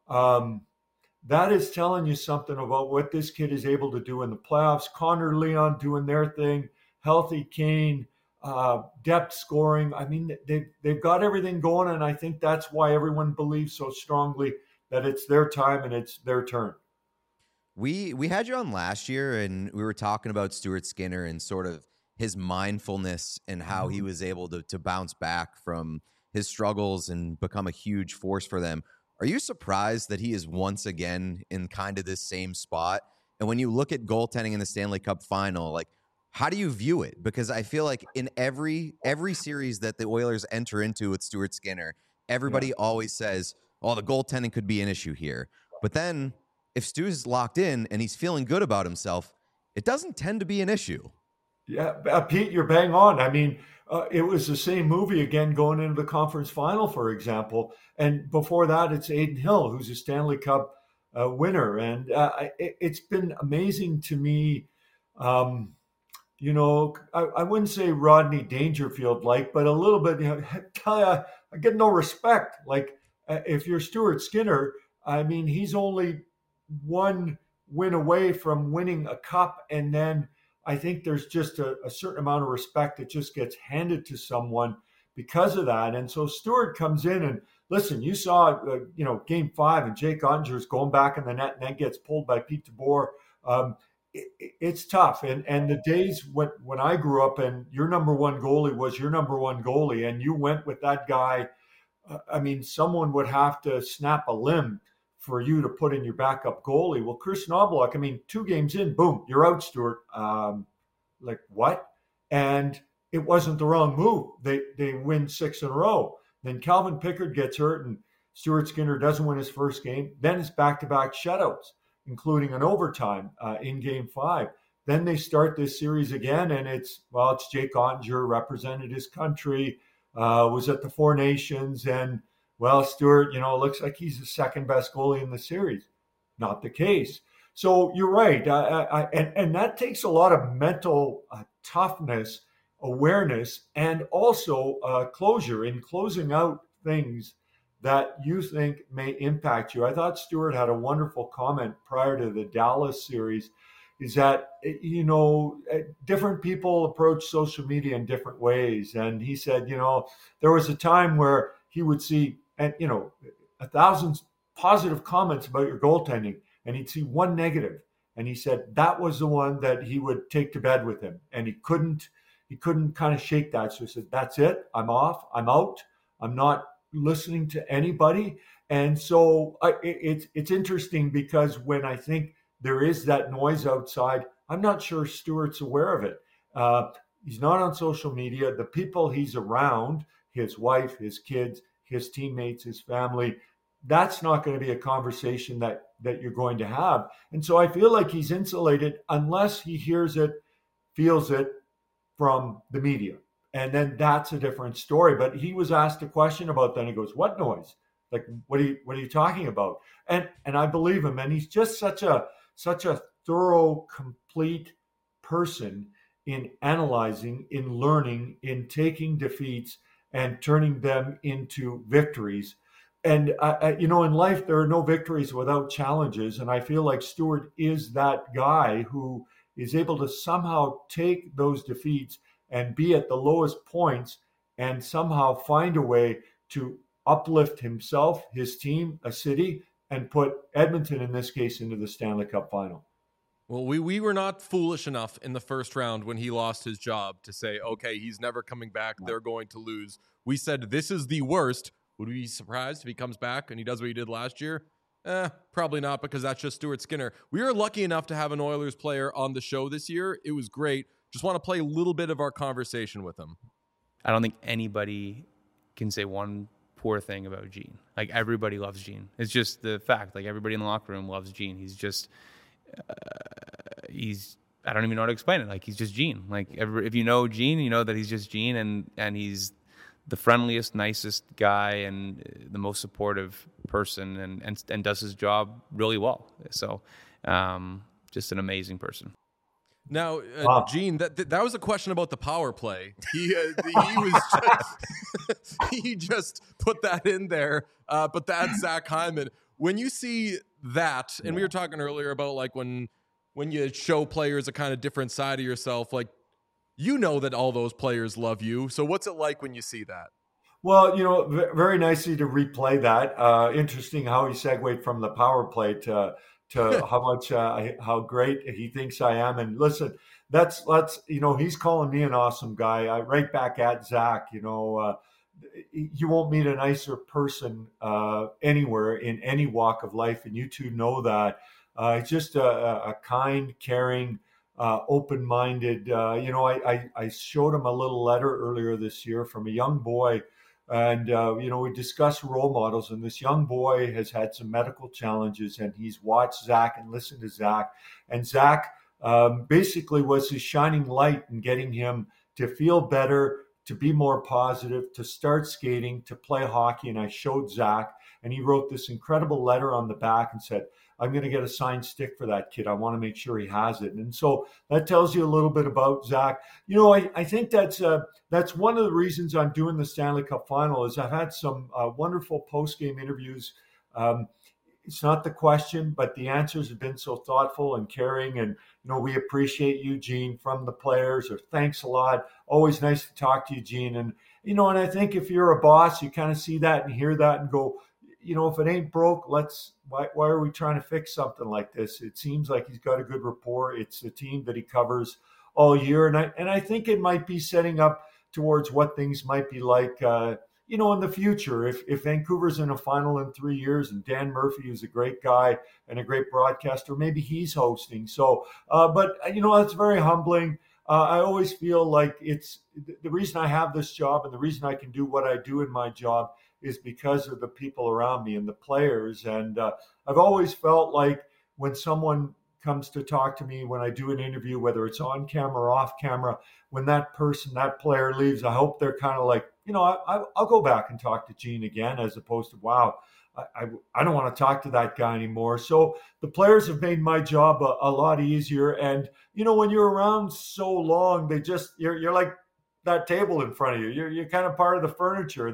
D: that is telling you something about what this kid is able to do in the playoffs. Connor, Leon doing their thing, healthy Kane, depth scoring. I mean, they've got everything going, and I think that's why everyone believes so strongly that it's their time and it's their turn.
C: We had you on last year, and we were talking about Stuart Skinner and sort of his mindfulness and how he was able to bounce back from his struggles and become a huge force for them. Are you surprised that he is once again in kind of this same spot? And when you look at goaltending in the Stanley Cup final, like, how do you view it? Because I feel like in every series that the Oilers enter into with Stuart Skinner, everybody always says, oh, the goaltending could be an issue here. But then if Stu's locked in and he's feeling good about himself, it doesn't tend to be an issue.
D: Yeah, Pete, you're bang on. I mean, it was the same movie again going into the conference final, for example. And before that, it's Adin Hill, who's a Stanley Cup winner. And it's been amazing to me. You know, I wouldn't say Rodney Dangerfield-like, but a little bit, you know, I get no respect. Like, if you're Stuart Skinner, I mean, he's only one win away from winning a cup, and then I think there's just a certain amount of respect that just gets handed to someone because of that. And so Stuart comes in and listen, you saw, Game 5 and Jake Ottinger's going back in the net and then gets pulled by Pete DeBoer. It's tough. And the days when I grew up and your number one goalie was your number one goalie and you went with that guy, I mean, someone would have to snap a limb for you to put in your backup goalie. Well, Chris Knoblauch, I mean, 2 games in, boom, you're out, Stuart. Like, what? And it wasn't the wrong move. They win 6 in a row. Then Calvin Pickard gets hurt and Stuart Skinner doesn't win his first game. Then it's back-to-back shutouts, including an overtime in Game 5. Then they start this series again, and it's Jake Ottinger, represented his country, was at the Four Nations, and Stuart, looks like he's the second best goalie in the series. Not the case. So you're right. And that takes a lot of mental toughness, awareness, and also closure in closing out things that you think may impact you. I thought Stuart had a wonderful comment prior to the Dallas series, is that, different people approach social media in different ways. And he said, there was a time where he would see, 1,000 positive comments about your goaltending, and he'd see one negative. And he said that was the one that he would take to bed with him. And he couldn't kind of shake that. So he said, that's it. I'm off. I'm out. I'm not listening to anybody. And so it's interesting because when I think there is that noise outside, I'm not sure Stuart's aware of it. He's not on social media. The people he's around, his wife, his kids, his teammates, his family, that's not going to be a conversation that you're going to have. And so I feel like he's insulated unless he hears it, feels it from the media. And then that's a different story. But he was asked a question about that. And he goes, what noise? Like, what are you talking about? And I believe him. And he's just such a thorough, complete person in analyzing, in learning, in taking defeats and turning them into victories. And, in life, there are no victories without challenges. And I feel like Stuart is that guy who is able to somehow take those defeats and be at the lowest points and somehow find a way to uplift himself, his team, a city, and put Edmonton, in this case, into the Stanley Cup final.
A: Well, we were not foolish enough in the first round when he lost his job to say, okay, he's never coming back. They're going to lose. We said, this is the worst. Would we be surprised if he comes back and he does what he did last year? Probably not, because that's just Stuart Skinner. We were lucky enough to have an Oilers player on the show this year. It was great. Just want to play a little bit of our conversation with him.
E: I don't think anybody can say one poor thing about Gene. Like, everybody loves Gene. It's just the fact. Like, everybody in the locker room loves Gene. He's just, I don't even know how to explain it. Like, he's just Gene. Like, if you know Gene, you know that he's just Gene, and he's the friendliest, nicest guy and the most supportive person, and does his job really well. So, just an amazing person.
A: Now, Gene, that was a question about the power play. He was just, he just put that in there. But that's Zach Hyman. When you see that, and we were talking earlier about like when you show players a kind of different side of yourself, like, you know that all those players love you. So what's it like when you see that?
D: Well, very nicely to replay that. Interesting how he segued from the power play to to how great he thinks I am. And listen, that's he's calling me an awesome guy. I right back at Zach. You won't meet a nicer person anywhere in any walk of life, and you two know that. He's just a kind, caring, open-minded. I showed him a little letter earlier this year from a young boy, and we discussed role models. And this young boy has had some medical challenges, and he's watched Zach and listened to Zach, and Zach basically was his shining light in getting him to feel better, to be more positive, to start skating, to play hockey. And I showed Zach, and he wrote this incredible letter on the back and said, I'm going to get a signed stick for that kid. I want to make sure he has it. And so that tells you a little bit about Zach. I think that's one of the reasons I'm doing the Stanley Cup final is I've had some wonderful post-game interviews. It's not the question, but the answers have been so thoughtful and caring. And, we appreciate you, Gene, from the players, or thanks a lot. Always nice to talk to you, Gene. And, and I think if you're a boss, you kind of see that and hear that and go, if it ain't broke, why are we trying to fix something like this? It seems like he's got a good rapport. It's a team that he covers all year. And I think it might be setting up towards what things might be like, in the future, if Vancouver's in a final in 3 years and Dan Murphy is a great guy and a great broadcaster, maybe he's hosting. So, but that's very humbling. I always feel like it's the reason I have this job and the reason I can do what I do in my job is because of the people around me and the players. And I've always felt like when someone comes to talk to me, when I do an interview, whether it's on camera or off camera, when that player leaves, I hope they're kind of like, I'll go back and talk to Gene again, as opposed to, wow, I don't want to talk to that guy anymore. So the players have made my job a lot easier. And, when you're around so long, you're like that table in front of you. You're kind of part of the furniture.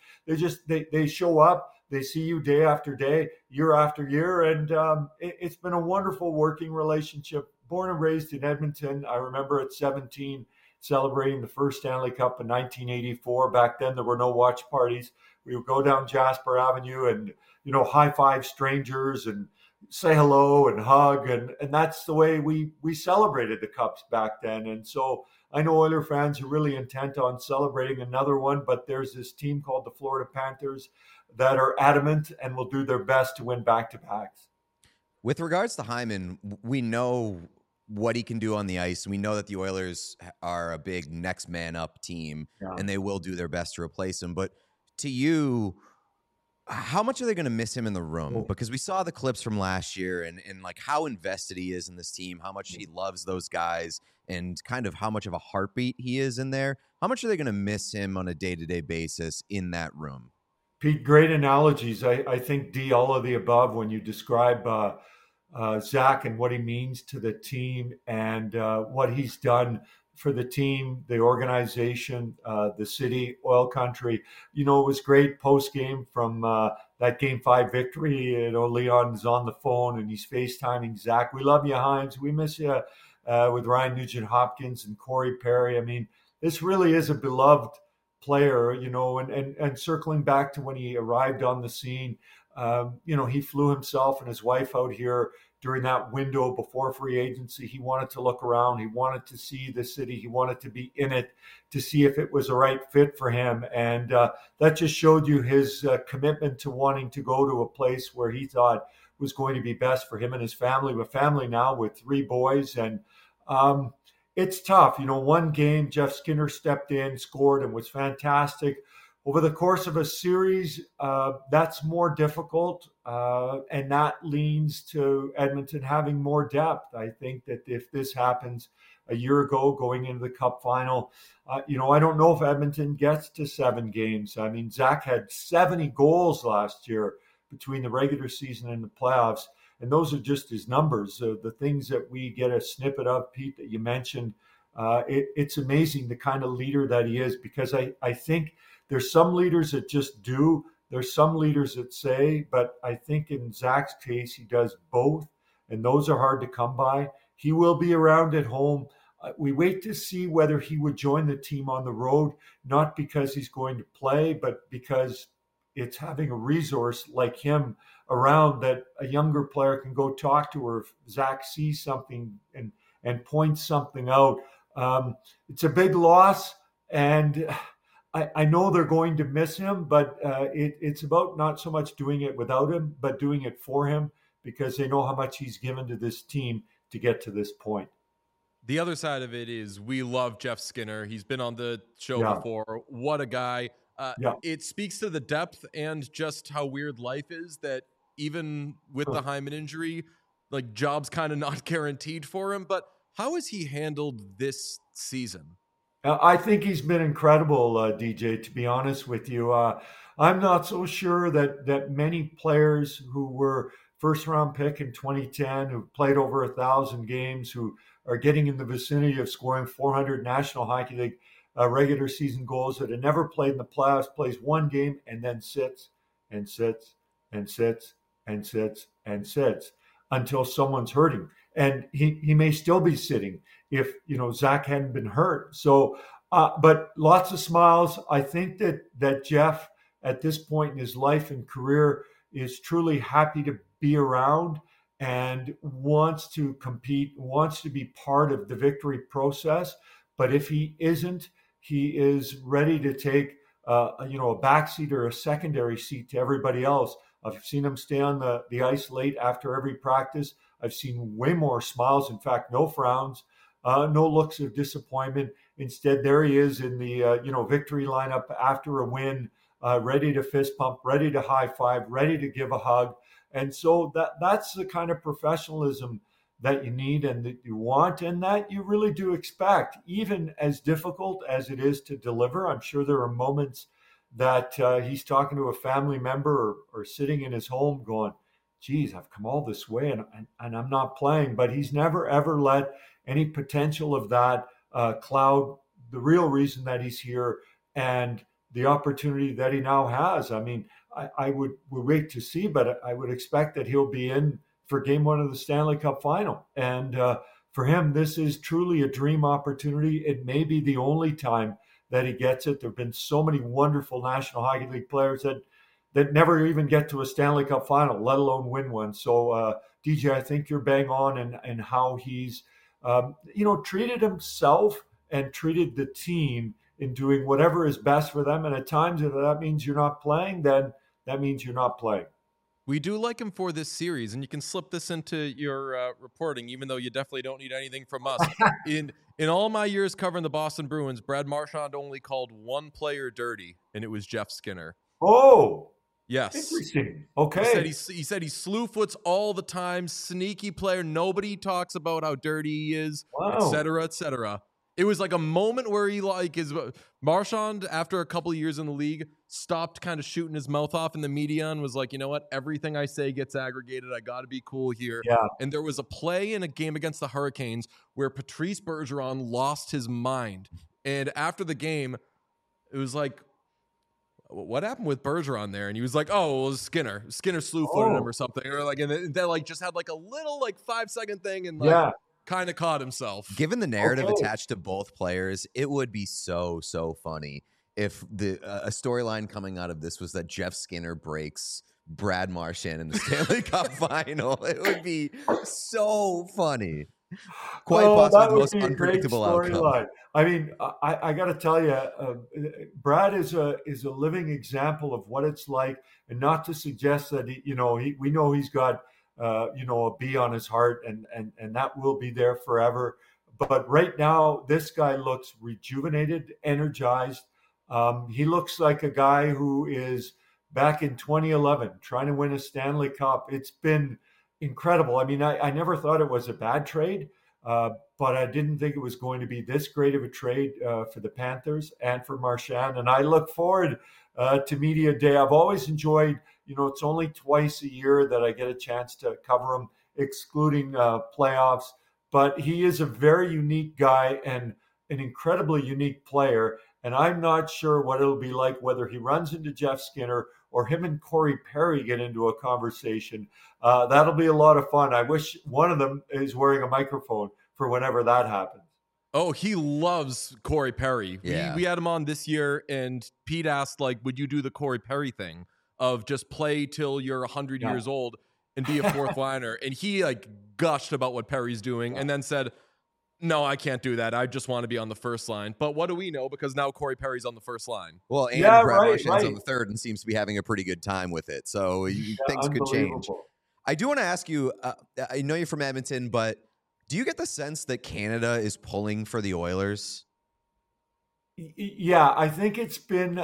D: They show up, they see you day after day, year after year. And it's been a wonderful working relationship. Born and raised in Edmonton. I remember at 17, celebrating the first Stanley Cup in 1984. Back then, there were no watch parties. We would go down Jasper Avenue and, high five strangers and say hello and hug. And that's the way we celebrated the Cups back then. And so I know Oiler fans are really intent on celebrating another one, but there's this team called the Florida Panthers that are adamant and will do their best to win back-to-backs.
C: With regards to Hyman, we know what he can do on the ice. We know that the Oilers are a big next man up team, and they will do their best to replace him. But to you, how much are they going to miss him in the room? Because we saw the clips from last year and like how invested he is in this team, how much he loves those guys, and kind of how much of a heartbeat he is in there. How much are they going to miss him on a day-to-day basis in that room?
D: Pete, great analogies. I think, D, all of the above when you describe Zach and what he means to the team and what he's done for the team, the organization, the city, oil country. It was great post-game from that Game 5 victory. Leon's on the phone and he's FaceTiming Zach. We love you, Hymes. We miss you, with Ryan Nugent-Hopkins and Corey Perry. I mean, this really is a beloved player, and circling back to when he arrived on the scene, he flew himself and his wife out here during that window before free agency. He wanted to look around. He wanted to see the city. He wanted to be in it to see if it was a right fit for him. And that just showed you his commitment to wanting to go to a place where he thought was going to be best for him and his family. A family now with 3 boys. And it's tough. One game, Jeff Skinner stepped in, scored, and was fantastic. Over the course of a series, that's more difficult, and that leans to Edmonton having more depth. I think that if this happens a year ago going into the Cup final, I don't know if Edmonton gets to 7 games. I mean, Zach had 70 goals last year between the regular season and the playoffs, and those are just his numbers. The things that we get a snippet of, Pete, that you mentioned, it's amazing the kind of leader that he is, because I think there's some leaders that just do. There's some leaders that say, but I think in Zach's case, he does both, and those are hard to come by. He will be around at home. We wait to see whether he would join the team on the road, not because he's going to play, but because it's having a resource like him around that a younger player can go talk to, or if Zach sees something and points something out. It's a big loss, and I know they're going to miss him, but it's about not so much doing it without him, but doing it for him, because they know how much he's given to this team to get to this point.
A: The other side of it is we love Jeff Skinner. He's been on the show before. What a guy. It speaks to the depth and just how weird life is that even with the Hyman injury, like, job's kind of not guaranteed for him. But how has he handled this season?
D: I think he's been incredible, DJ, to be honest with you. I'm not so sure that many players who were first-round pick in 2010, who played over 1,000 games, who are getting in the vicinity of scoring 400 National Hockey League regular season goals, that have never played in the playoffs, plays one game and then sits and sits and sits and sits and sits until someone's hurting. And he may still be sitting if, Zach hadn't been hurt. So, but lots of smiles. I think that Jeff, at this point in his life and career, is truly happy to be around and wants to compete, wants to be part of the victory process. But if he isn't, he is ready to take a backseat or a secondary seat to everybody else. I've seen him stay on the ice late after every practice. I've seen way more smiles. In fact, no frowns, no looks of disappointment. Instead, there he is in the victory lineup after a win, ready to fist pump, ready to high five, ready to give a hug. And so that's the kind of professionalism that you need and that you want, and that you really do expect, even as difficult as it is to deliver. I'm sure there are moments that he's talking to a family member or sitting in his home going, geez, I've come all this way and I'm not playing. But he's never, ever let any potential of that cloud the real reason that he's here and the opportunity that he now has. I mean, I would wait to see, but I would expect that he'll be in for game one of the Stanley Cup final. And for him, this is truly a dream opportunity. It may be the only time that he gets it. There have been so many wonderful National Hockey League players that never even get to a Stanley Cup final, let alone win one. So, DJ, I think you're bang on and how he's, treated himself and treated the team in doing whatever is best for them. And at times, if that means you're not playing, then that means you're not playing.
A: We do like him for this series, and you can slip this into your reporting, even though you definitely don't need anything from us. In all my years covering the Boston Bruins, Brad Marchand only called one player dirty, and it was Jeff Skinner.
D: Oh,
A: yes.
D: Interesting. Okay.
A: He said he slew foots all the time, sneaky player. Nobody talks about how dirty he is, et cetera, et cetera. It was like a moment where he Marchand, after a couple of years in the league, stopped kind of shooting his mouth off in the media and was like, you know what? Everything I say gets aggregated. I got to be cool here.
D: Yeah.
A: And there was a play in a game against the Hurricanes where Patrice Bergeron lost his mind. And after the game, it was like, what happened with Bergeron there? And he was like, oh, it was Skinner. Skinner slew-footed him or something. Or and then just had like a little 5-second thing and kind of caught himself.
C: Given the narrative attached to both players, it would be so funny if a storyline coming out of this was that Jeff Skinner breaks Brad Marchand in the Stanley Cup final. It would be so funny. Quite possibly the most unpredictable outcome.
D: I mean, I got to tell you, Brad is a living example of what it's like, and not to suggest that we know he's got a B on his heart, and that will be there forever. But right now, this guy looks rejuvenated, energized. He looks like a guy who is back in 2011 trying to win a Stanley Cup. It's been incredible. I mean, I never thought it was a bad trade, but I didn't think it was going to be this great of a trade for the Panthers and for Marchand. And I look forward to Media Day. I've always enjoyed, it's only twice a year that I get a chance to cover him, excluding playoffs. But he is a very unique guy and an incredibly unique player. And I'm not sure what it'll be like, whether he runs into Jeff Skinner or him and Corey Perry get into a conversation. That'll be a lot of fun. I wish one of them is wearing a microphone for whenever that happens.
A: Oh, he loves Corey Perry.
C: Yeah.
A: We had him on this year, and Pete asked, would you do the Corey Perry thing? of just play till you're 100
D: Yeah.
A: years old and be a fourth liner. And he like gushed about what Perry's doing and then said, no, I can't do that. I just want to be on the first line. But what do we know? Because now Corey Perry's on the first line.
C: Well, and
D: Yeah,
C: Brad
D: right,
C: Marchand's on
D: right.
C: the third and seems to be having a pretty good time with it. So things could change.
D: Unbelievable.
C: I do want to ask you, I know you're from Edmonton, but do you get the sense that Canada is pulling for the Oilers?
D: Yeah, I think it's been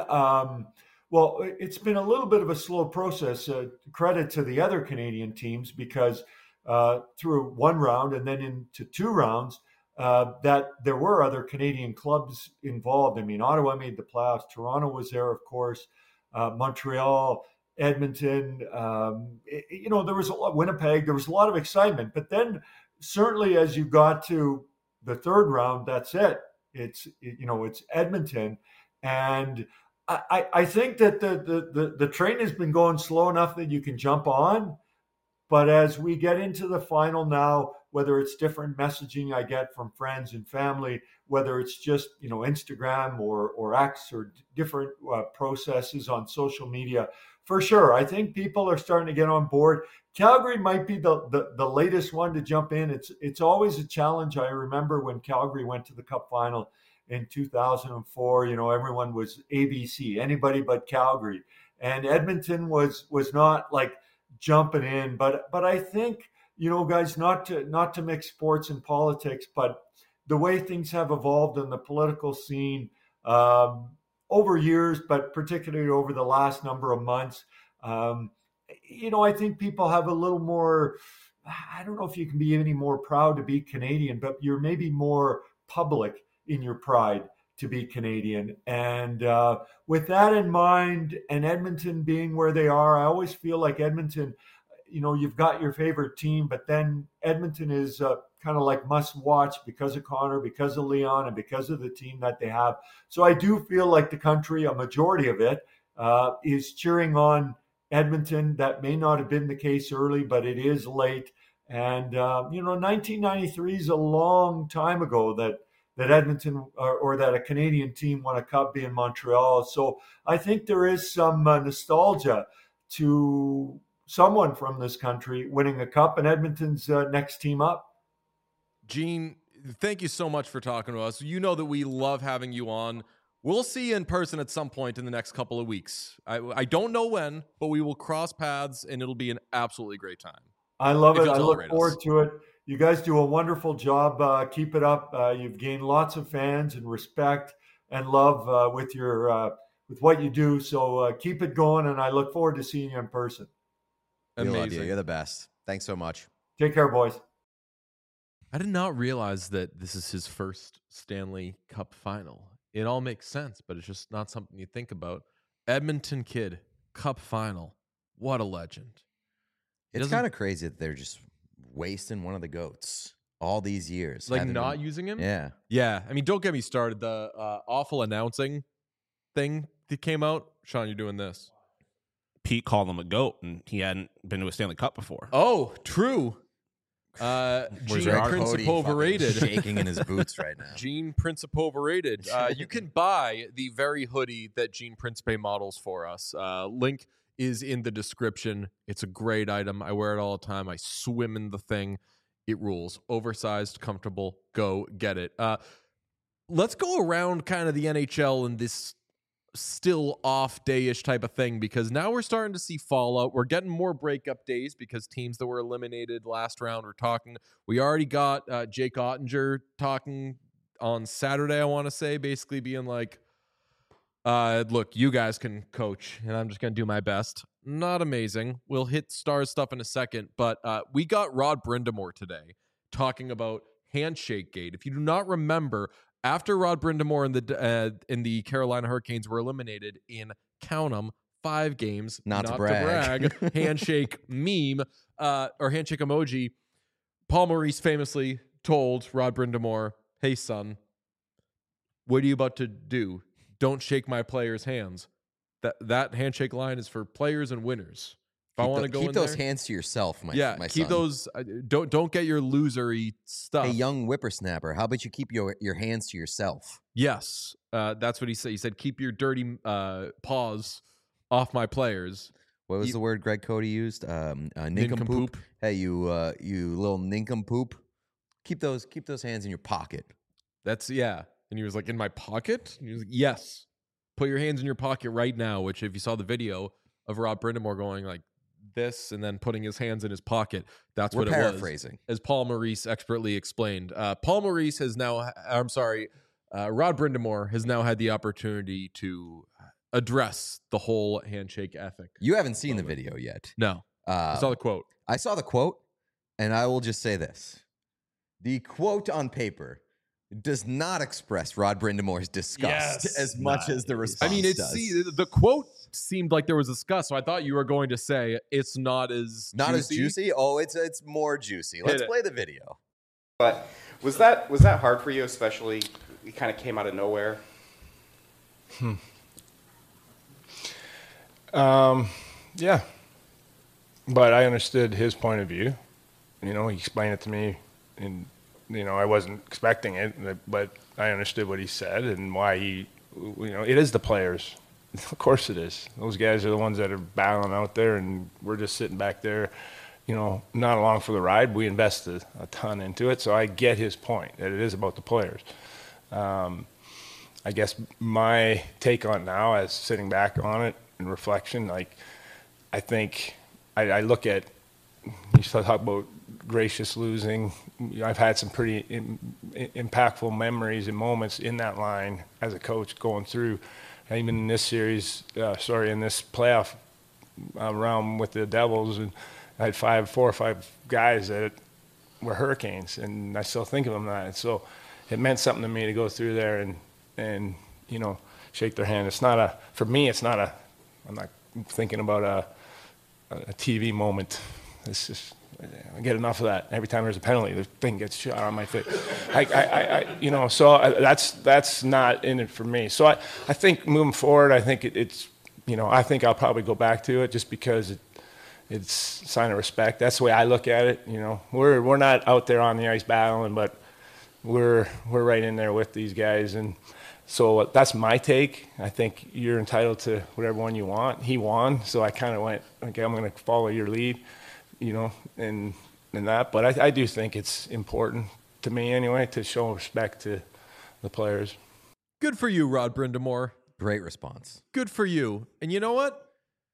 D: it's been a little bit of a slow process. Credit to the other Canadian teams because through one round and then into two rounds, that there were other Canadian clubs involved. I mean, Ottawa made the playoffs. Toronto was there, of course. Montreal, Edmonton. There was a lot. Winnipeg. There was a lot of excitement. But then, certainly, as you got to the third round, that's it. It's Edmonton, and I think that the train has been going slow enough that you can jump on, but as we get into the final now, whether it's different messaging I get from friends and family, whether it's just Instagram or X or different processes on social media, for sure, I think people are starting to get on board. Calgary might be the latest one to jump in. It's always a challenge. I remember when Calgary went to the Cup final in 2004. Everyone was ABC, anybody but Calgary, and Edmonton was not like jumping in. But I think guys, not to mix sports and politics, but the way things have evolved in the political scene over years, but particularly over the last number of months. I think people have a little more, I don't know if you can be any more proud to be Canadian, but you're maybe more public in your pride to be Canadian. And with that in mind, and Edmonton being where they are, I always feel like Edmonton, you've got your favorite team, but then Edmonton is kind of like must watch because of Connor, because of Leon, and because of the team that they have. So I do feel like the country, a majority of it, is cheering on Edmonton. That may not have been the case early, but it is late. And 1993 is a long time ago that Edmonton or that a Canadian team won a cup being Montreal. So I think there is some nostalgia to someone from this country winning a cup, and Edmonton's next team up.
A: Gene, thank you so much for talking to us. You know that we love having you on. We'll see you in person at some point in the next couple of weeks. I don't know when, but we will cross paths, and it'll be an absolutely great time.
D: I love it. I look
A: tolerate
D: forward
A: us.
D: to it. You guys do a wonderful job. Keep it up. You've gained lots of fans and respect and love with what you do. So keep it going, and I look forward to seeing you in person.
C: We love you.
A: Amazing.
C: You're the best. Thanks so much.
D: Take care, boys.
A: I did not realize that this is his first Stanley Cup final. It all makes sense, but it's just not something you think about. Edmonton kid, Cup final. What a legend.
C: It's kind of crazy that they're just wasting one of the GOATs all these years.
A: Like
C: Haven't
A: not
C: been-
A: using him?
C: Yeah.
A: Yeah. I mean, don't get me started. The awful announcing thing that came out. Sean, you're doing this.
B: Pete called him a GOAT, and he hadn't been to a Stanley Cup before.
A: Oh, true.
B: Where's
A: Gene
B: your article?
C: Cody
A: Princip
C: fucking
A: overrated.
C: shaking in his boots right now.
A: Gene Princip overrated. You can buy the very hoodie that Gene Principe models for us. Link is in the description. It's a great item. I wear it all the time. I swim in the thing. It rules. Oversized, comfortable. Go get it. Let's go around kind of the NHL in this still off day-ish type of thing, because now we're starting to see fallout. We're getting more breakup days because teams that were eliminated last round are talking. We already got Jake Ottinger talking on Saturday, I want to say, basically being like, look, you guys can coach, and I'm just going to do my best. Not amazing. We'll hit Stars stuff in a second, but we got Rod Brind'Amour today talking about Handshake Gate. If you do not remember, after Rod Brind'Amour and the Carolina Hurricanes were eliminated in, count 'em, 5 games,
C: Not to brag.
A: handshake meme or handshake emoji, Paul Maurice famously told Rod Brind'Amour, hey, son, what are you about to do? Don't shake my players' hands. That handshake line is for players and winners. If I want to go in
C: keep those
A: there,
C: hands to yourself, my
A: keep
C: son.
A: those. Don't get your losery stuff.
C: Hey, young whippersnapper, how about you keep your hands to yourself?
A: Yes, that's what he said. He said, keep your dirty paws off my players.
C: What was
A: You-
C: the word Greg Cody used? Nincompoop.
A: Nincompoop.
C: Hey, you little nincompoop. Keep those hands in your pocket.
A: That's And he was like, in my pocket? And he was like, yes. Put your hands in your pocket right now, which if you saw the video of Rod Brindamore going like this and then putting his hands in his pocket, that's
C: We're
A: what it was.
C: paraphrasing.
A: As Paul Maurice expertly explained. Paul Maurice has now, Rod Brindamore has now had the opportunity to address the whole handshake ethic.
C: You haven't seen the video yet.
A: No. I saw the quote.
C: I saw the quote, and I will just say this. The quote on paper does not express Rod Brindamore's disgust as much as the response does.
A: The quote seemed like there was disgust, so I thought you were going to say it's not as
C: As juicy? Oh, it's more juicy. Let's play the video.
F: But was that hard for you, especially it kind of came out of nowhere?
G: Yeah. But I understood his point of view. He explained it to me, and I wasn't expecting it, but I understood what he said and why he. It is the players. Of course it is. Those guys are the ones that are battling out there, and we're just sitting back there, not along for the ride. We invested a ton into it, so I get his point that it is about the players. I guess my take on it now, as sitting back on it in reflection, I think I look at, you talk about gracious losing. I've had some pretty impactful memories and moments in that line as a coach going through, and even in this series, in this playoff round with the Devils, and I had 4 or 5 guys that were Hurricanes, and I still think of them that. And so it meant something to me to go through there and shake their hand. For me, I'm not thinking about a TV moment. It's just, I get enough of that. Every time there's a penalty, the thing gets shot on my face. That's not in it for me. So I think moving forward, I think I think I'll probably go back to it just because it's a sign of respect. That's the way I look at it. We're not out there on the ice battling, but we're right in there with these guys. And so that's my take. I think you're entitled to whatever one you want. He won, so I kind of went, okay, I'm going to follow your lead, and that. But I do think it's important to me anyway to show respect to the players.
A: Good for you, Rod Brindamore.
C: Great response.
A: Good for you. And you know what?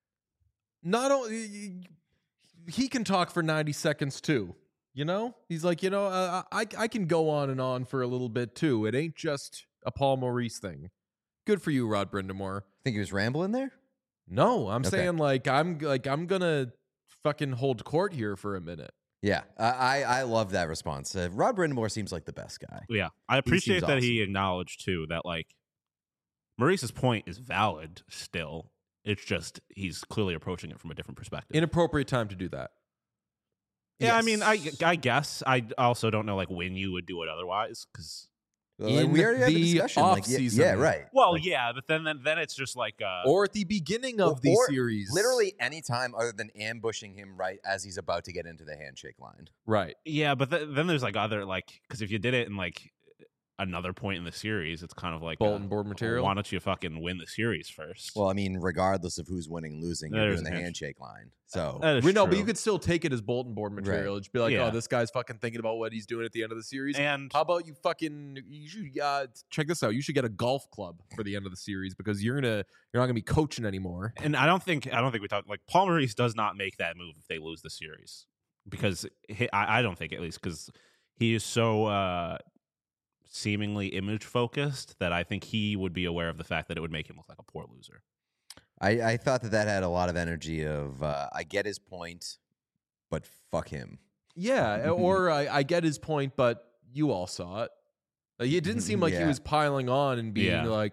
A: Not only he can talk for 90 seconds too. He's like, I can go on and on for a little bit too. It ain't just a Paul Maurice thing. Good for you, Rod Brindamore.
C: Think he was rambling there?
A: No, I'm
C: Okay.
A: saying I'm gonna fucking hold court here for a minute.
C: Yeah, I love that response. Rod Brindamore seems like the best guy.
B: Yeah, I appreciate
C: seems
B: that he acknowledged too that Maurice's point is valid still. It's just he's clearly approaching it from a different perspective.
A: Inappropriate time to do that.
B: Yeah, I
A: Yes.
B: mean, I guess I also don't know when you would do it otherwise because.
A: In
C: we already had the
A: the
C: discussion.
A: off-season.
C: Yeah, right.
B: Well, yeah, but then it's just
A: Or at the beginning of the
C: Or
A: series.
C: Literally any time other than ambushing him right as he's about to get into the handshake line.
A: Right.
B: yeah, but then there's other because if you did it in another point in the series, it's kind of
A: Bulletin board material.
B: Why don't you fucking win the series first?
C: Well, I mean, regardless of who's winning, losing, you're
B: There's
C: doing the
B: a
C: handshake line. So
B: that is
A: No, but
B: true.
A: you could still take it as bulletin board material. Just be like,
B: Yeah.
A: oh, this guy's fucking thinking about what he's doing at the end of the series.
B: And
A: How about you should check this out. You should get a golf club for the end of the series because you're not gonna be coaching anymore.
B: And I don't think we talked Paul Maurice does not make that move if they lose the series because I don't think, at least, because he is so seemingly image focused that I think he would be aware of the fact that it would make him look like a poor loser.
C: I thought that had a lot of energy of I get his point, but fuck him.
A: Yeah, or I get his point, but you all saw it. It didn't seem like he
C: Yeah.
A: was piling on and being
B: Yeah.
A: like,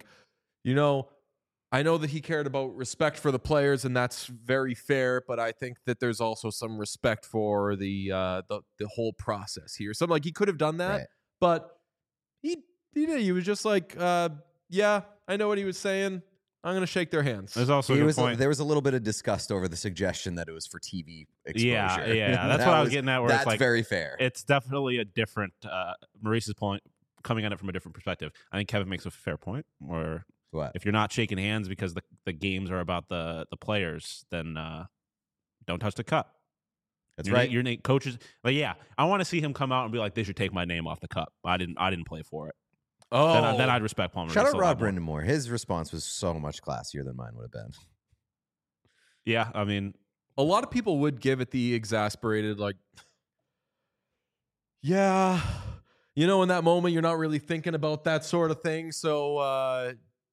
A: I know that he cared about respect for the players, and that's very fair. But I think that there's also some respect for the whole process here. So he could have done that,
C: Right.
A: but he did. He was just like, yeah, I know what he was saying. I'm gonna shake their hands.
B: There's also a good point.
C: There was a little bit of disgust over the suggestion that it was for TV exposure.
B: Yeah, that's what I was getting at. Where
C: That's
B: it's
C: very fair.
B: it's definitely a different Maurice's point coming at it from a different perspective. I think Kevin makes a fair point. Or
C: What?
B: If you're not shaking hands because the games are about the players, then don't touch the cup.
C: That's right.
B: Your name coaches. But yeah, I want to see him come out and be like, they should take my name off the cup. I didn't play for it.
A: Oh,
B: Then I'd respect Paul Maurice.
C: Shout out
B: a lot
C: Rod
B: more.
C: Brindamore. His response was so much classier than mine would have been.
B: Yeah, I mean,
A: a lot of people would give it the exasperated, like, yeah, you know, in that moment, you're not really thinking about that sort of thing. So,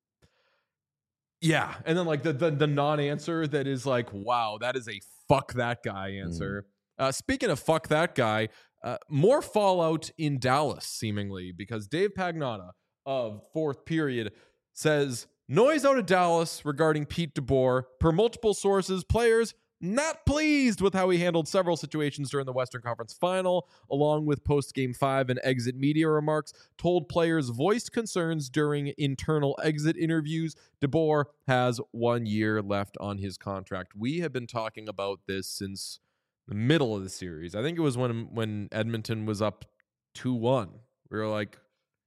A: yeah. And then, like, the non-answer that is like, wow, that is a fuck that guy answer. Speaking of fuck that guy, more fallout in Dallas, seemingly, because Dave Pagnotta of Fourth Period says, noise out of Dallas regarding Pete DeBoer. Per multiple sources, players not pleased with how he handled several situations during the Western Conference Final, along with post-Game 5 and exit media remarks, told players voiced concerns during internal exit interviews. DeBoer has 1 year left on his contract. We have been talking about this since the middle of the series. I think it was when Edmonton was up 2-1. We were like,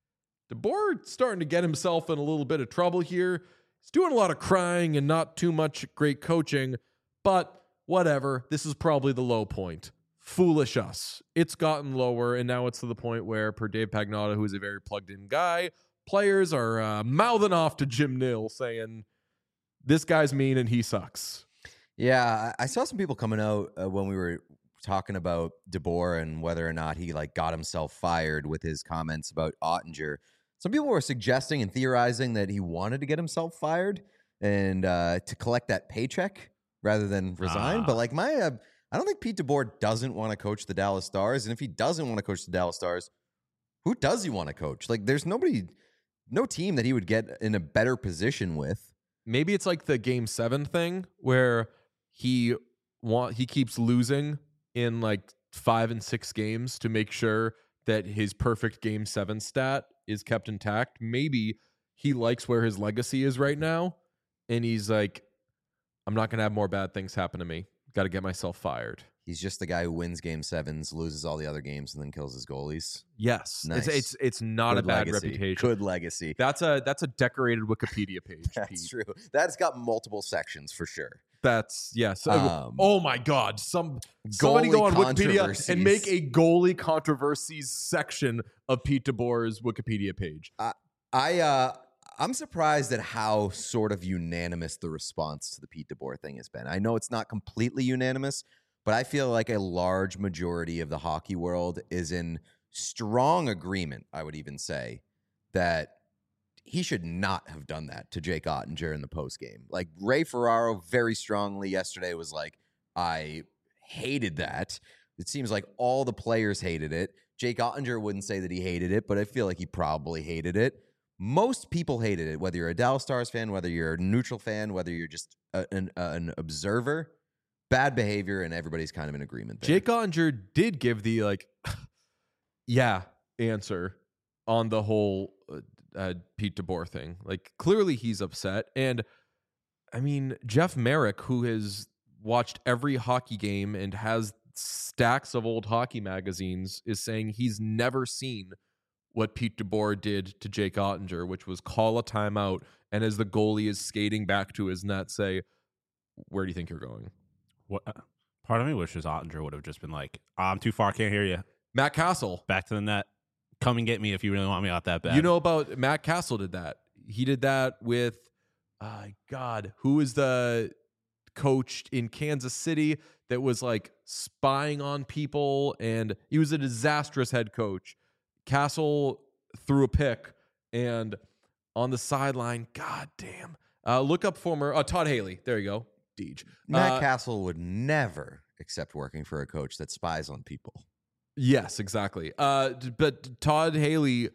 A: DeBoer starting to get himself in a little bit of trouble here. He's doing a lot of crying and not too much great coaching, but whatever. This is probably the low point. Foolish us. It's gotten lower, and now it's to the point where, per Dave Pagnotta, who is a very plugged-in guy, players are mouthing off to Jim Nill saying, this guy's mean and he sucks.
C: Yeah, I saw some people coming out when we were talking about DeBoer and whether or not he like got himself fired with his comments about Ottinger. Some people were suggesting and theorizing that he wanted to get himself fired and to collect that paycheck rather than resign. But like I don't think Pete DeBoer doesn't want to coach the Dallas Stars. And if he doesn't want to coach the Dallas Stars, who does he want to coach? Like there's no team that he would get in a better position with.
A: Maybe it's like the Game 7 thing where he keeps losing in like 5 and 6 games to make sure that his perfect Game 7 stat is kept intact. Maybe he likes where his legacy is right now, and he's like, I'm not going to have more bad things happen to me. Got to get myself fired.
C: He's just the guy who wins Game 7s, loses all the other games, and then kills his goalies.
A: Yes,
C: Nice.
A: It's not
C: Good
A: a bad
C: legacy.
A: reputation.
C: Good legacy.
A: That's a decorated Wikipedia page.
C: That's
A: Pete.
C: true. That's got multiple sections for sure.
A: That's yes.
C: Um,
A: Oh my God! Somebody
C: goalie
A: go on Wikipedia
C: controversies.
A: and make a goalie controversies section of Pete DeBoer's Wikipedia page.
C: I'm surprised at how sort of unanimous the response to the Pete DeBoer thing has been. I know it's not completely unanimous, but I feel like a large majority of the hockey world is in strong agreement, I would even say, that he should not have done that to Jake Ottinger in the postgame. Like Ray Ferraro very strongly yesterday was like, I hated that. It seems like all the players hated it. Jake Ottinger wouldn't say that he hated it, but I feel like he probably hated it. Most people hated it, whether you're a Dallas Stars fan, whether you're a neutral fan, whether you're just an observer. Bad behavior, and everybody's kind of in agreement there.
A: Jake Ottinger did give the like, yeah answer on the whole Pete DeBoer thing. Like clearly he's upset, and I mean Jeff Merrick, who has watched every hockey game and has stacks of old hockey magazines, is saying he's never seen what Pete DeBoer did to Jake Ottinger, which was call a timeout, and as the goalie is skating back to his net, say, where do you think you're going?
B: what part of me wishes Ottinger would have just been like, I'm too far, can't hear you.
A: Matt Castle.
B: Back to the net. Come and get me if you really want me out that bad.
A: You know about Matt Castle did that. He did that with, God, who is the coach in Kansas City that was like spying on people, and he was a disastrous head coach. Castle threw a pick, and on the sideline, God damn. Look up former Todd Haley. There you go. Deej.
C: Matt Castle would never accept working for a coach that spies on people.
A: Yes, exactly. But Todd Haley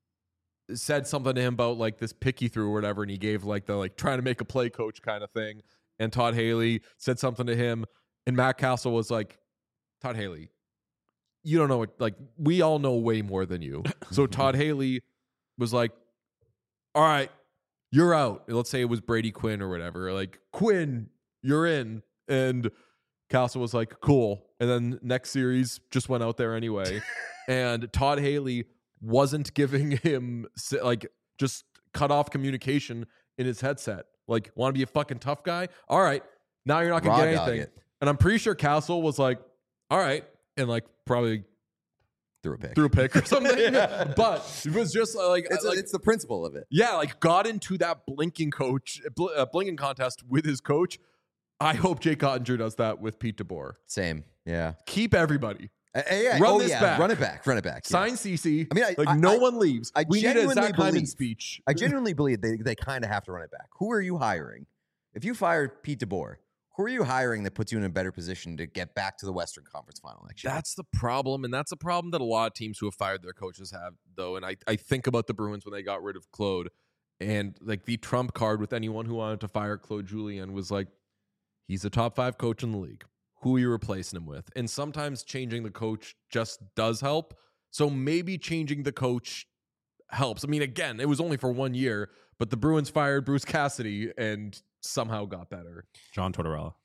A: said something to him about like this pick he threw or whatever, and he gave like the like trying to make a play coach kind of thing. And Todd Haley said something to him, and Matt Castle was like, Todd Haley, you don't know what, like, we all know way more than you. So Todd Haley was like, all right, you're out. Let's say it was Brady Quinn or whatever. Like, Quinn, you're in. And Castle was like, cool. And then next series just went out there anyway. And Todd Haley wasn't giving him, like, just cut off communication in his headset. Like, want to be a fucking tough guy? All right. Now you're not going
C: Raw
A: to get
C: dog
A: anything.
C: it.
A: And I'm pretty sure Castle was like, all right. And like probably
C: Threw a pick.
A: threw a pick or something. But it was just like,
C: It's the principle of it.
A: yeah, like got into that blinking contest with his coach. I hope Jake Ottinger does that with Pete DeBoer.
C: Same. Yeah.
A: Keep everybody.
C: Yeah.
A: Run this back.
C: Run it back. Run it back. Yeah.
A: Sign CC.
C: I mean,
A: like no one leaves. We need a
C: genuinely
A: Zach Hyman
C: believe-
A: speech.
C: I genuinely believe they kind of have to run it back. Who are you hiring? If you fired Pete DeBoer, who are you hiring that puts you in a better position to get back to the Western Conference Final next year?
A: That's the problem, and that's a problem that a lot of teams who have fired their coaches have, though. And I think about the Bruins when they got rid of Claude, and like the trump card with anyone who wanted to fire Claude Julien was like, he's a top 5 coach in the league. Who are you replacing him with? And sometimes changing the coach just does help. So maybe changing the coach helps. I mean, again, it was only for 1 year, but the Bruins fired Bruce Cassidy and somehow got better.
B: John Tortorella.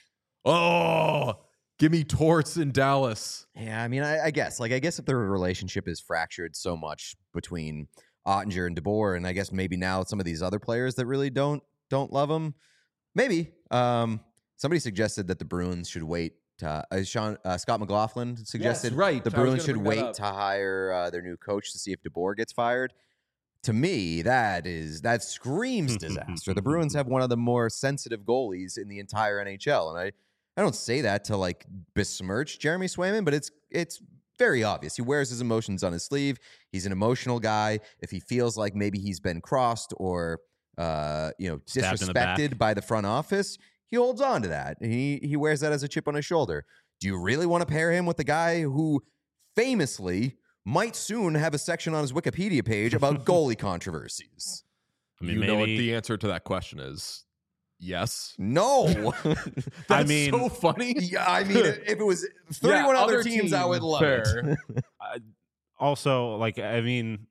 A: Oh, give me Torts in Dallas.
C: Yeah, I mean, I guess. Like, I guess if their relationship is fractured so much between Ottinger and DeBoer, and I guess maybe now some of these other players that really don't love him, maybe. Somebody suggested that the Bruins should wait. Scott McLaughlin suggested
A: right.
C: the
A: I was
C: Bruins
A: gonna
C: should
A: bring that
C: wait
A: up.
C: to hire their new coach to see if DeBoer gets fired. To me, that screams disaster. The Bruins have one of the more sensitive goalies in the entire NHL, and I don't say that to like besmirch Jeremy Swayman, but it's very obvious. He wears his emotions on his sleeve. He's an emotional guy. If he feels like maybe he's been crossed or
B: Stabbed in the
C: disrespected by the front office, he holds on to that. He wears that as a chip on his shoulder. Do you really want to pair him with the guy who famously might soon have a section on his Wikipedia page about goalie controversies?
B: I mean,
A: You know what
B: maybe
A: the answer to that question is? Yes.
C: No.
A: That's
B: I mean-
A: so funny.
C: Yeah, I mean, if it was 31
A: Yeah,
C: other teams, I would love
A: fair.
C: it.
B: also, like, I mean,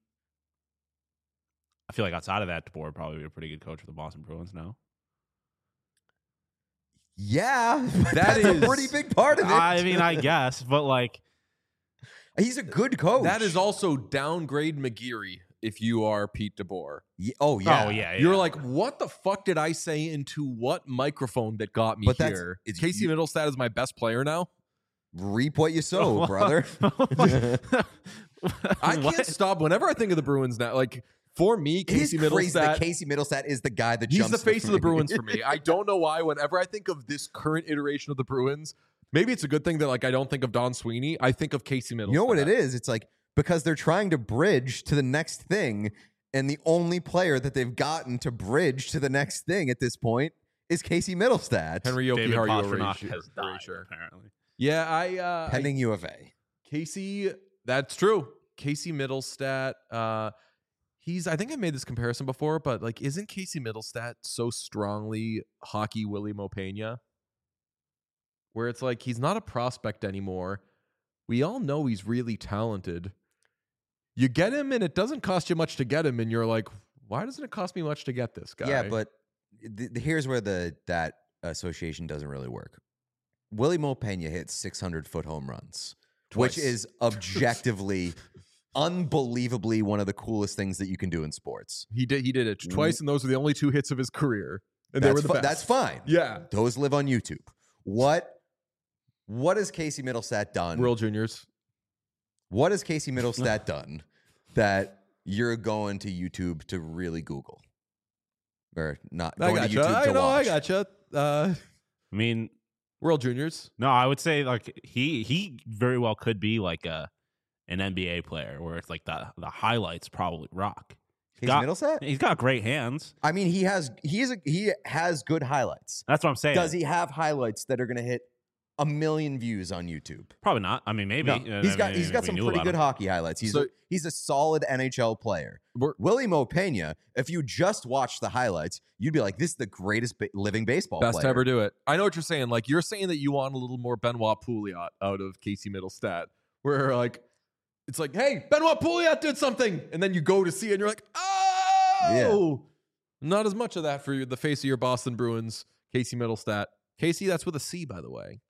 B: I feel like outside of that, DeBoer would probably be a pretty good coach for the Boston Bruins now.
C: Yeah,
A: That
C: that's
A: is-
C: a pretty big part of it.
B: I mean, I guess, but like,
C: He's a good coach.
A: That is also downgrade McGeary if you are Pete DeBoer.
C: Oh, yeah.
B: oh yeah,
A: You're like, what the fuck did I say into what microphone that got me
C: But that's-
A: here?
C: it's-
A: Casey Middlestat is my best player now.
C: Reap what you sow, brother.
A: I can't stop whenever I think of the Bruins now. Like, for me,
C: It is
A: Casey
C: crazy that
A: Middlestat,
C: Casey Middlestat is the guy that
A: he's
C: jumps
A: the face of the
C: me.
A: Bruins for me. I don't know why. Whenever I think of this current iteration of the Bruins, maybe it's a good thing that like I don't think of Don Sweeney. I think of Casey Middlestat.
C: You know what it is? It's like because they're trying to bridge to the next thing, and the only player that they've gotten to bridge to the next thing at this point is Casey Middlestat.
A: Henry Yoki,
B: David
A: are you
B: Pastrnak
A: erasure?
B: has died,
A: Erasure.
B: apparently.
A: Yeah, I
C: pending U of A.
A: Casey, that's true. Casey Middlestat, I think I made this comparison before, but like, isn't Casey Middlestat so strongly hockey Willie Mopena? Where it's like, he's not a prospect anymore. We all know he's really talented. You get him and it doesn't cost you much to get him. And you're like, why doesn't it cost me much to get this guy?
C: Yeah, but here's where that association doesn't really work. Willie Mopena hit 600-foot home runs,
A: Twice.
C: which is objectively, unbelievably one of the coolest things that you can do in sports.
A: he did it twice, and those were the only 2 hits of his career. And they were the best.
C: That's fine.
A: Yeah.
C: Those live on YouTube. What has Casey Middlestat done?
A: World Juniors.
C: What has Casey Middlestat done that you're going to YouTube to really Google? Or not
A: I
C: going to
A: gotcha.
C: YouTube to
A: I know,
C: watch?
A: I gotcha.
B: I mean,
A: World Juniors.
B: no, I would say like he very well could be like an NBA player where it's like the highlights probably rock.
C: Casey Middlestat?
B: He's got great hands.
C: I mean, he has good highlights.
B: That's what I'm saying.
C: Does he have highlights that are going to hit 1 million views on YouTube?
B: Probably not. I mean, maybe.
C: No, he's got some pretty good hockey highlights. He's a solid NHL player. Willie Mopena, if you just watch the highlights, you'd be like, this is the greatest living baseball
A: Best
C: player.
A: to ever do it. I know what you're saying. Like, you're saying that you want a little more Benoit Pouliot out of Casey Middlestat, where like it's like, hey, Benoit Pouliot did something, and then you go to see it, and you're like, oh, not as much of that for the face of your Boston Bruins, Casey Middlestat. Casey, that's with a C, by the way.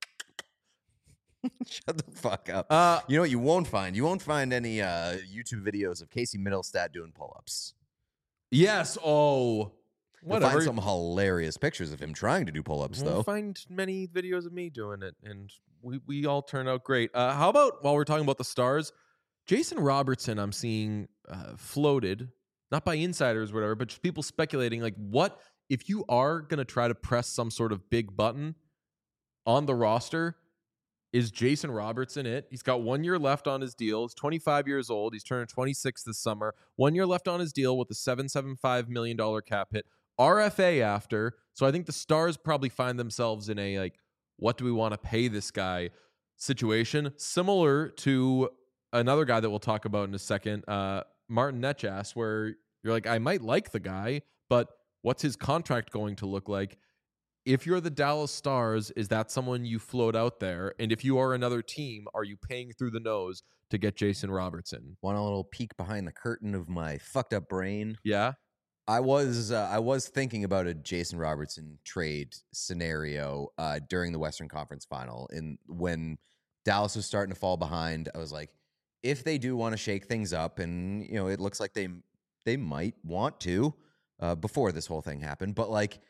C: Shut the fuck up. You know what you won't find? You won't find any YouTube videos of Casey Middlestat doing pull-ups.
A: Yes. Oh,
C: You'll
A: Whatever.
C: find some hilarious pictures of him trying to do pull-ups,
A: We'll
C: though.
A: find many videos of me doing it, and we all turn out great. How about, while we're talking about the stars, Jason Robertson, I'm seeing floated, not by insiders or whatever, but just people speculating, like, what if you are going to try to press some sort of big button on the roster, is Jason Robertson it? He's got 1 year left on his deal. He's 25 years old. He's turning 26 this summer. 1 year left on his deal with a $775 million cap hit. RFA after. So I think the Stars probably find themselves in a, like, what do we want to pay this guy situation? Similar to another guy that we'll talk about in a second, Martin Necas, where you're like, I might like the guy, but what's his contract going to look like? If you're the Dallas Stars, is that someone you float out there? And if you are another team, are you paying through the nose to get Jason Robertson?
C: Want a little peek behind the curtain of my fucked up brain?
A: Yeah.
C: I was thinking about a Jason Robertson trade scenario during the Western Conference Final, and when Dallas was starting to fall behind, I was like, if they do want to shake things up, and it looks like they might want to before this whole thing happened, but like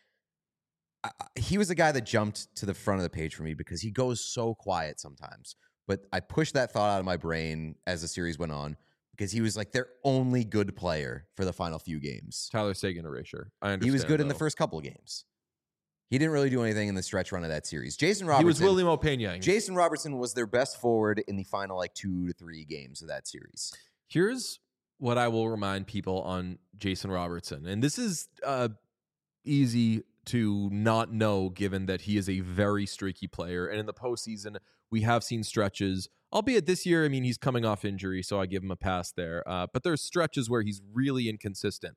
C: he was the guy that jumped to the front of the page for me because he goes so quiet sometimes. But I pushed that thought out of my brain as the series went on, because he was like their only good player for the final few games.
A: Tyler Seguin erasure. I understand.
C: He was good in the
A: though.
C: first couple of games. He didn't really do anything in the stretch run of that series. Jason Robertson.
A: He was William O'Pena.
C: Jason Robertson was their best forward in the final like 2 to 3 games of that series.
A: Here's what I will remind people on Jason Robertson. And this is easy to not know, given that he is a very streaky player. And in the postseason, we have seen stretches, albeit this year, I mean, he's coming off injury, so I give him a pass there. But there's stretches where he's really inconsistent.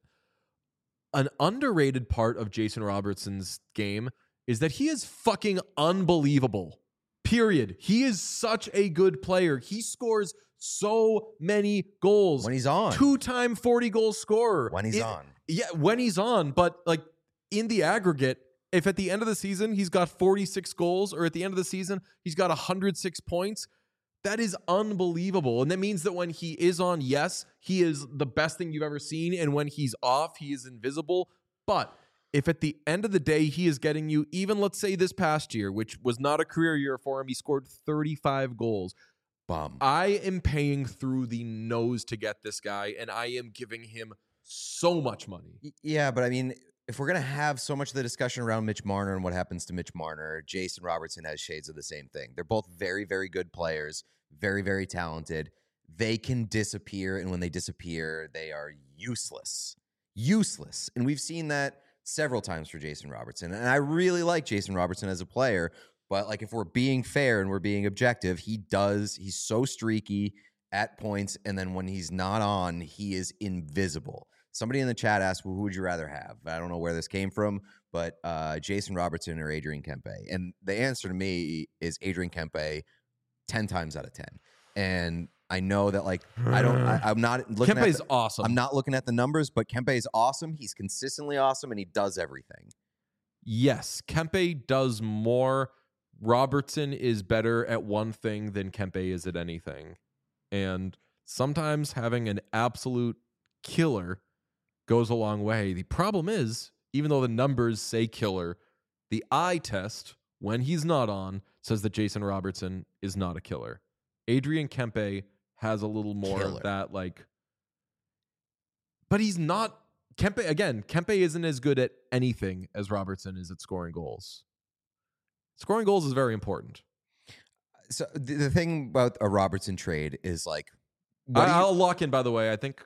A: An underrated part of Jason Robertson's game is that he is fucking unbelievable. Period. He is such a good player. He scores so many goals.
C: When he's on.
A: 2-time 40-goal scorer.
C: When he's on.
A: Yeah, when he's on. But like in the aggregate, if at the end of the season he's got 46 goals, or at the end of the season he's got 106 points, that is unbelievable. And that means that when he is on, yes, he is the best thing you've ever seen. And when he's off, he is invisible. But if at the end of the day he is getting you, even let's say this past year, which was not a career year for him, he scored 35 goals.
C: Bum.
A: I am paying through the nose to get this guy, and I am giving him so much money.
C: Yeah, but I mean, if we're going to have so much of the discussion around Mitch Marner and what happens to Mitch Marner, Jason Robertson has shades of the same thing. They're both very, very good players, very, very talented. They can disappear, and when they disappear, they are useless. Useless. And we've seen that several times for Jason Robertson. And I really like Jason Robertson as a player, but like if we're being fair and we're being objective, he's so streaky at points, and then when he's not on, he is invisible. Somebody in the chat asked, well, who would you rather have? I don't know where this came from, but Jason Robertson or Adrian Kempe. And the answer to me is Adrian Kempe 10 times out of 10. And I know that, like, I'm not looking
A: Kempe's
C: at
A: awesome.
C: I'm not looking at the numbers, but Kempe is awesome. He's consistently awesome, and he does everything.
A: Yes, Kempe does more. Robertson is better at one thing than Kempe is at anything. And sometimes having an absolute killer goes a long way. The problem is, even though the numbers say killer, the eye test, when he's not on, says that Jason Robertson is not a killer. Adrian Kempe has a little more of that, like, but he's not. Kempe isn't as good at anything as Robertson is at scoring goals. Scoring goals is very important.
C: So the thing about a Robertson trade is like,
A: I'll lock in, by the way. I think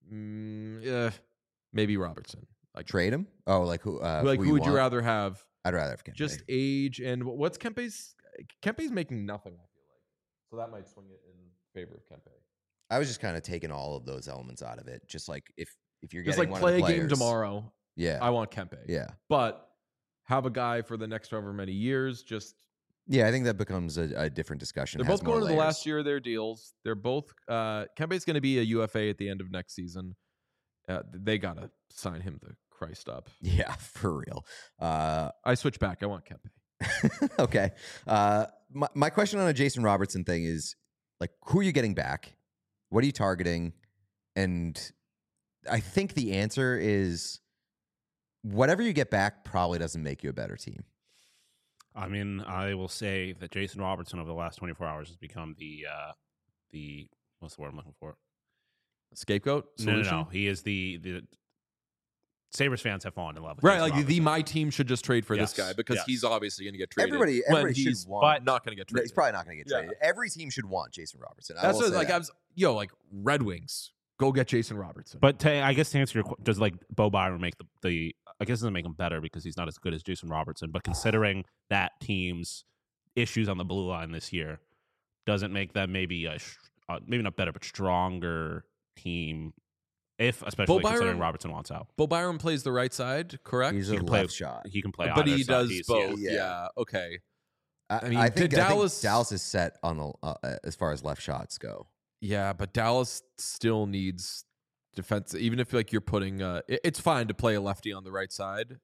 A: maybe Robertson. Like,
C: trade him? Oh, like who?
A: who would you rather have?
C: I'd rather have Kempe.
A: Just age and what's Kempe's? Kempe's making nothing, I feel like. So that might swing it in favor of Kempe.
C: I was just kind of taking all of those elements out of it. Just like if you're
A: Just
C: getting
A: like
C: one
A: play
C: of the
A: a game
C: players,
A: tomorrow.
C: Yeah,
A: I want Kempe.
C: yeah,
A: But have a guy for the next however many years. Just
C: yeah. I think that becomes a different discussion.
A: they're
C: Has
A: both
C: more
A: going to the
C: layers.
A: last year of their deals. They're both Kempe's going to be a UFA at the end of next season. They gotta sign him the Christ up.
C: Yeah, for real.
A: I switch back. I want Kempe.
C: Okay. My question on a Jason Robertson thing is, like, who are you getting back? What are you targeting? And I think the answer is whatever you get back probably doesn't make you a better team.
B: I mean, I will say that Jason Robertson over the last 24 hours has become the what's the word I'm looking for?
A: Scapegoat solution.
B: No. He is the Sabres fans have fallen in love with
A: Right,
B: Jason
A: like
B: Robertson.
A: my team should just trade for this
B: Yes,
A: guy because
B: yes.
A: he's obviously going to get traded.
C: Everybody
A: when
C: should
A: he's
C: want.
A: not going to get
C: No,
A: traded.
C: he's probably not going to get
A: Yeah.
C: traded. Every team should want Jason Robertson.
A: That's
C: I will
A: what,
C: say
A: like
C: that.
A: I was, like Red Wings, go get Jason Robertson.
B: But I guess to answer your question, does like Bo Byron make the I guess it doesn't make him better because he's not as good as Jason Robertson. But considering that team's issues on the blue line this year, doesn't make them maybe maybe not better but stronger team. Especially considering Robertson wants out,
A: Bo Byron plays the right side, correct?
C: He's
B: he
C: a
B: can play
C: left shot.
B: He can play,
A: but
B: either
A: he
B: side.
A: does
B: He's-
A: both.
C: yeah.
A: Yeah. Okay.
C: I
A: mean,
C: I think
A: Dallas-
C: Dallas is set on the as far as left shots go.
A: Yeah, but Dallas still needs defense. Even if like you're putting, it's fine to play a lefty on the right side.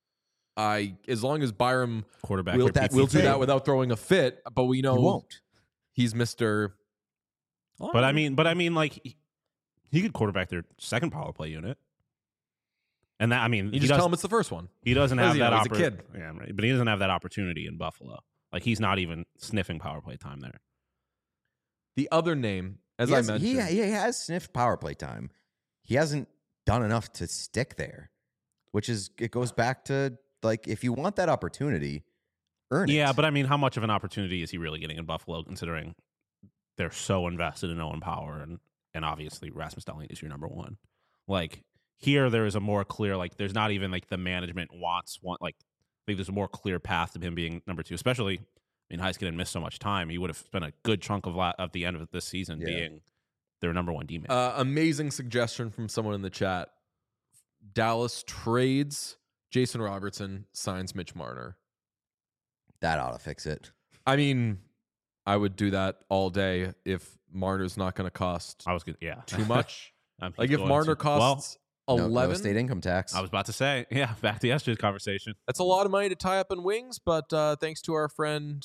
A: As long as Byram
B: quarterback.
A: will
B: or
C: that's
A: do
C: the thing.
A: that without throwing a fit, but we know
C: He won't.
A: he's Mr.
B: But I mean, like he could quarterback their second power play unit, and that
A: You just tell him it's the first one.
B: he doesn't
A: What
B: have
A: is he
B: that
A: now? He's a kid.
B: Yeah, right. But he doesn't have that opportunity in Buffalo. Like he's not even sniffing power play time there.
A: The other name, as
C: He
A: I
C: has-
A: mentioned,
C: he has sniffed power play time. He hasn't done enough to stick there, which is it goes back to like if you want that opportunity, earn it.
B: Yeah, but I mean, how much of an opportunity is he really getting in Buffalo, considering they're so invested in Owen Power and obviously Rasmus Dahlin is your number one. Like here, there is a more clear like there's not even like the management wants like I think there's a more clear path to him being number two. Especially, I mean, Heiskanen missed so much time. He would have spent a good chunk of the end of this season being their number one D man.
A: amazing suggestion from someone in the chat. Dallas trades Jason Robertson, signs Mitch Marner.
C: That ought to fix it.
A: I mean, I would do that all day if Marner's not going to cost
B: I was good. Yeah,
A: too much.
B: He's
A: Like if
B: going
A: Marner
B: to-
A: costs
C: No
A: 11,
C: state income tax.
B: I was about to say, yeah, back to yesterday's conversation.
A: that's a lot of money to tie up in wings. But thanks to our friend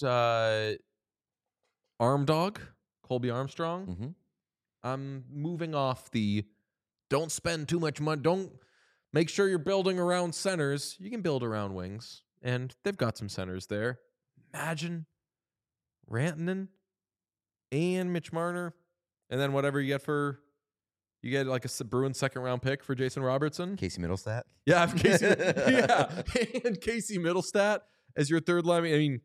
A: Arm Dog, Colby Armstrong,
C: Mm-hmm.
A: I'm moving off the don't spend too much money. Don't make sure you're building around centers. You can build around wings, and they've got some centers there. Imagine Rantanen and Mitch Marner, and then whatever you get like a Bruins second round pick for Jason Robertson.
C: Casey Middlestat.
A: Yeah, Casey, yeah, and Casey Middlestat as your third line. I mean,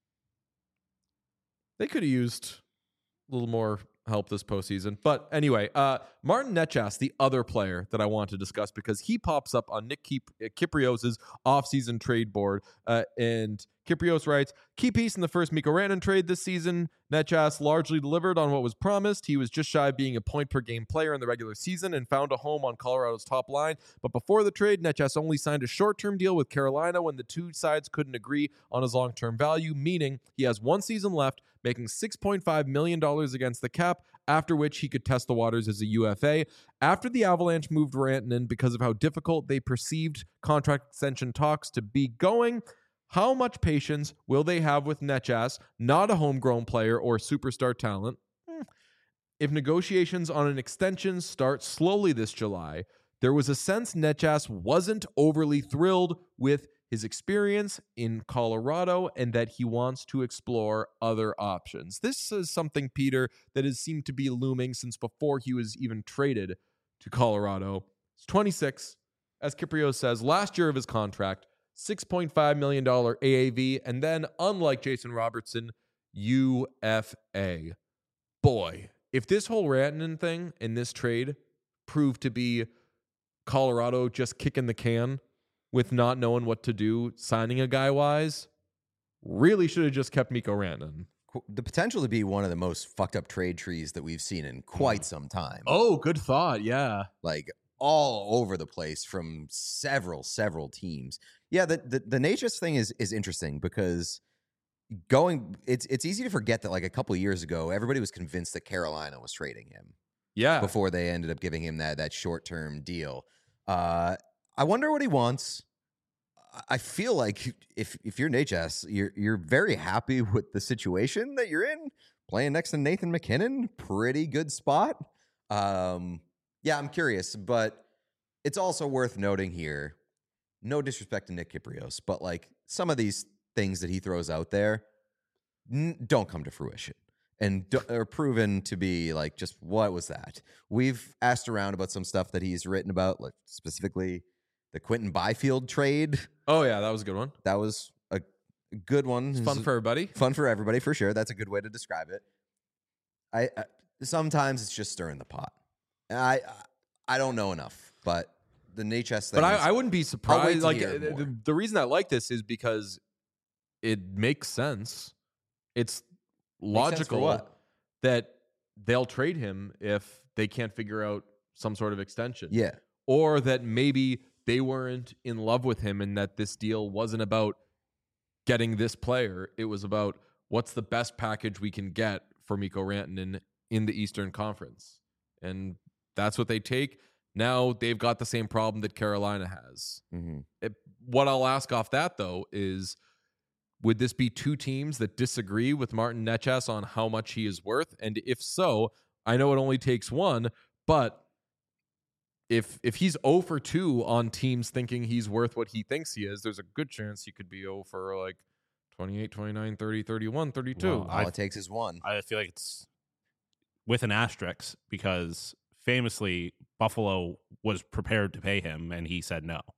A: they could have used a little more help this postseason. But anyway, Martin Necas, the other player that I want to discuss because he pops up on Nick Kyprios' offseason trade board. And Kyprios writes, key piece in the first Mikko Rantanen trade this season. Necas largely delivered on what was promised. He was just shy of being a point-per-game player in the regular season and found a home on Colorado's top line. But before the trade, Necas only signed a short-term deal with Carolina when the two sides couldn't agree on his long-term value, meaning he has one season left, making $6.5 million against the cap, after which he could test the waters as a UFA. After the Avalanche moved Rantanen because of how difficult they perceived contract extension talks to be going, how much patience will they have with Necas, not a homegrown player or superstar talent? If negotiations on an extension start slowly this July, there was a sense Necas wasn't overly thrilled with his experience in Colorado and that he wants to explore other options. This is something, Peter, that has seemed to be looming since before he was even traded to Colorado. He's 26, as Kyprios says, last year of his contract, $6.5 million AAV, and then, unlike Jason Robertson, UFA. Boy, if this whole Rantanen thing in this trade proved to be Colorado just kicking the can with not knowing what to do, signing a guy wise, really should have just kept Mikko Rantanen.
C: The potential to be one of the most fucked up trade trees that we've seen in quite some time.
A: Oh, good thought. Yeah.
C: Like all over the place from several teams. Yeah, the Necas thing is interesting because it's easy to forget that like a couple of years ago, everybody was convinced that Carolina was trading him.
A: Yeah.
C: Before they ended up giving him that short-term deal. I wonder what he wants. I feel like if you're Necas, you're very happy with the situation that you're in, playing next to Nathan McKinnon, pretty good spot. Yeah, I'm curious, but it's also worth noting here no disrespect to Nick Kypreos, but like some of these things that he throws out there don't come to fruition and are proven to be like, just what was that? We've asked around about some stuff that he's written about, like specifically the Quentin Byfield trade.
A: Oh yeah, that was a good one.
C: That was a good one.
A: It's fun for everybody.
C: Fun for everybody, for sure. That's a good way to describe it. I sometimes it's just stirring the pot. I don't know enough, but the NHS thing.
A: But
C: is,
A: I wouldn't be
C: I'll wait
A: surprised.
C: to
A: Like
C: hear more.
A: the reason I like this is because it makes sense. It's logical
C: what?
A: that they'll trade him if they can't figure out some sort of extension.
C: Yeah.
A: Or that maybe they weren't in love with him and that this deal wasn't about getting this player. It was about what's the best package we can get for Mikko Rantanen in the Eastern Conference. And that's what they take. Now they've got the same problem that Carolina has.
C: Mm-hmm.
A: What I'll ask off that, though, is would this be two teams that disagree with Martin Necas on how much he is worth? And if so, I know it only takes one, but if he's 0 for 2 on teams thinking he's worth what he thinks he is, there's a good chance he could be 0 for like 28, 29, 30, 31, 32.
B: Well,
C: All it takes is one.
B: I feel like it's with an asterisk because famously Buffalo was prepared to pay him and he said no.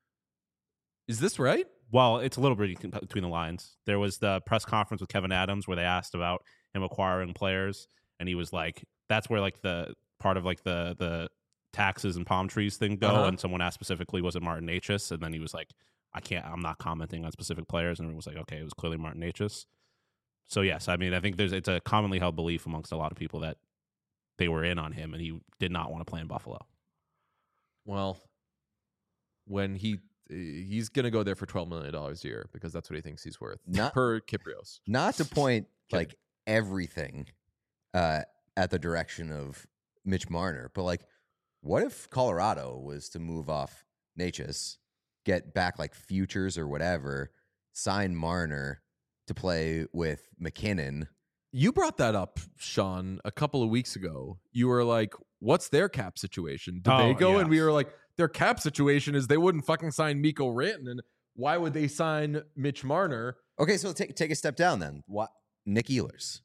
A: Is this right?
B: Well, it's a little bit between the lines. There was the press conference with Kevin Adams where they asked about him acquiring players, and he was like, "That's where like the part of like the taxes and palm trees thing go."
A: Uh-huh.
B: And someone asked specifically, "Was it Martin Necas?" And then he was like, I'm not commenting on specific players." And everyone was like, "Okay, it was clearly Martin Necas." So yes, I mean, I think it's a commonly held belief amongst a lot of people that they were in on him and he did not want to play in Buffalo.
A: Well, when he's going to go there for $12 million a year because that's what he thinks he's worth per Kypreos.
C: Not to point like everything at the direction of Mitch Marner, but like, what if Colorado was to move off Necas, get back like futures or whatever, sign Marner to play with McKinnon?
A: You brought that up, Sean, a couple of weeks ago. You were like, what's their cap situation? Did they go?
B: Yeah.
A: And we were like, their cap situation is they wouldn't fucking sign Mikko Rantanen. Why would they sign Mitch Marner?
C: Okay, so take a step down then. What? Nick Ehlers.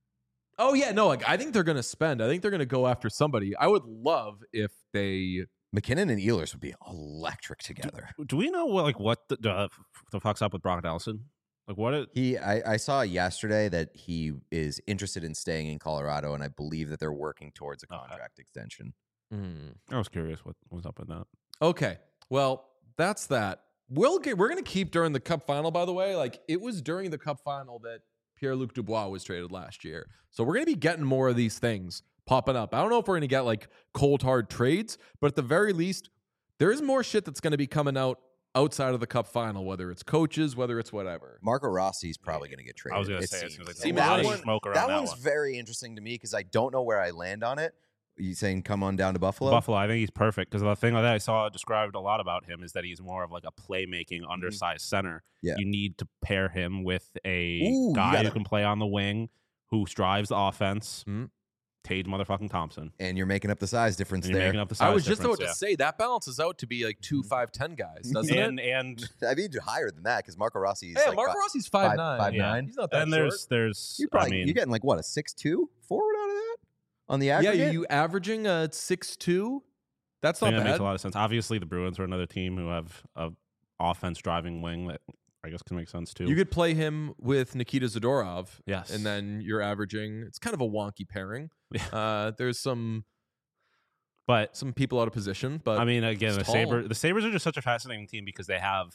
A: Oh, yeah. No, like I think they're going to spend. I think they're going to go after somebody. I would love if they...
C: McKinnon and Ehlers would be electric together.
B: Do we know what the fuck's up with Brock Nelson? Like what?
C: I saw yesterday that he is interested in staying in Colorado, and I believe that they're working towards a contract extension.
B: I was curious what was up with that.
A: Okay. Well, that's that. We're going to keep during the Cup final, by the way. Like, it was during the Cup final that Pierre-Luc Dubois was traded last year. So we're going to be getting more of these things popping up. I don't know if we're going to get, like, cold, hard trades, but at the very least, there is more shit that's going to be coming out outside of the Cup final, whether it's coaches, whether it's whatever.
C: Marco Rossi's probably going to get traded.
B: I was going to
C: it
B: say,
C: seems.
B: it
A: seems
C: that
A: like
C: one,
B: smoke around
C: that
B: that
C: one's
B: one.
C: very interesting to me because I don't know where I land on it. You saying come on down to Buffalo?
B: Buffalo, I think he's perfect because the thing that I saw described a lot about him is that he's more of like a playmaking, undersized center.
C: Yeah.
B: You need to pair him with a
C: Ooh,
B: guy who can play on the wing, who drives the offense.
A: Mhm.
B: Tage motherfucking Thompson.
C: And you're making up the size difference
B: And you're
C: there.
B: making up the size
A: I was just
B: difference,
A: about to say that balances out to be like 2 5'10" guys, doesn't it?
B: and
C: I mean, higher than that because Marco Rossi's
A: Yeah,
C: like
A: Marco Rossi's 5'9".
C: 5'9".
B: Yeah.
A: He's not that
B: and
A: short.
B: there's
C: You're
B: I
C: probably
B: mean,
C: you're getting like what, a 6'2" forward out of that on the
A: Yeah,
C: aggregate.
A: you averaging a 6'2". That's
B: I
A: not
B: think that makes
A: bad.
B: a lot of sense. Obviously, the Bruins are another team who have a offense driving wing that I guess can make sense too.
A: You could play him with Nikita Zadorov.
B: Yes.
A: And then you're averaging, it's kind of a wonky pairing. There's some people out of position, but
B: I mean, again,
A: it's
B: the
A: tall.
B: Sabres are just such a fascinating team because they have,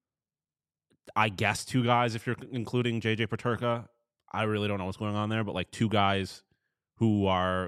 B: I guess, two guys, if you're including JJ Peterka. I really don't know what's going on there, but like two guys who are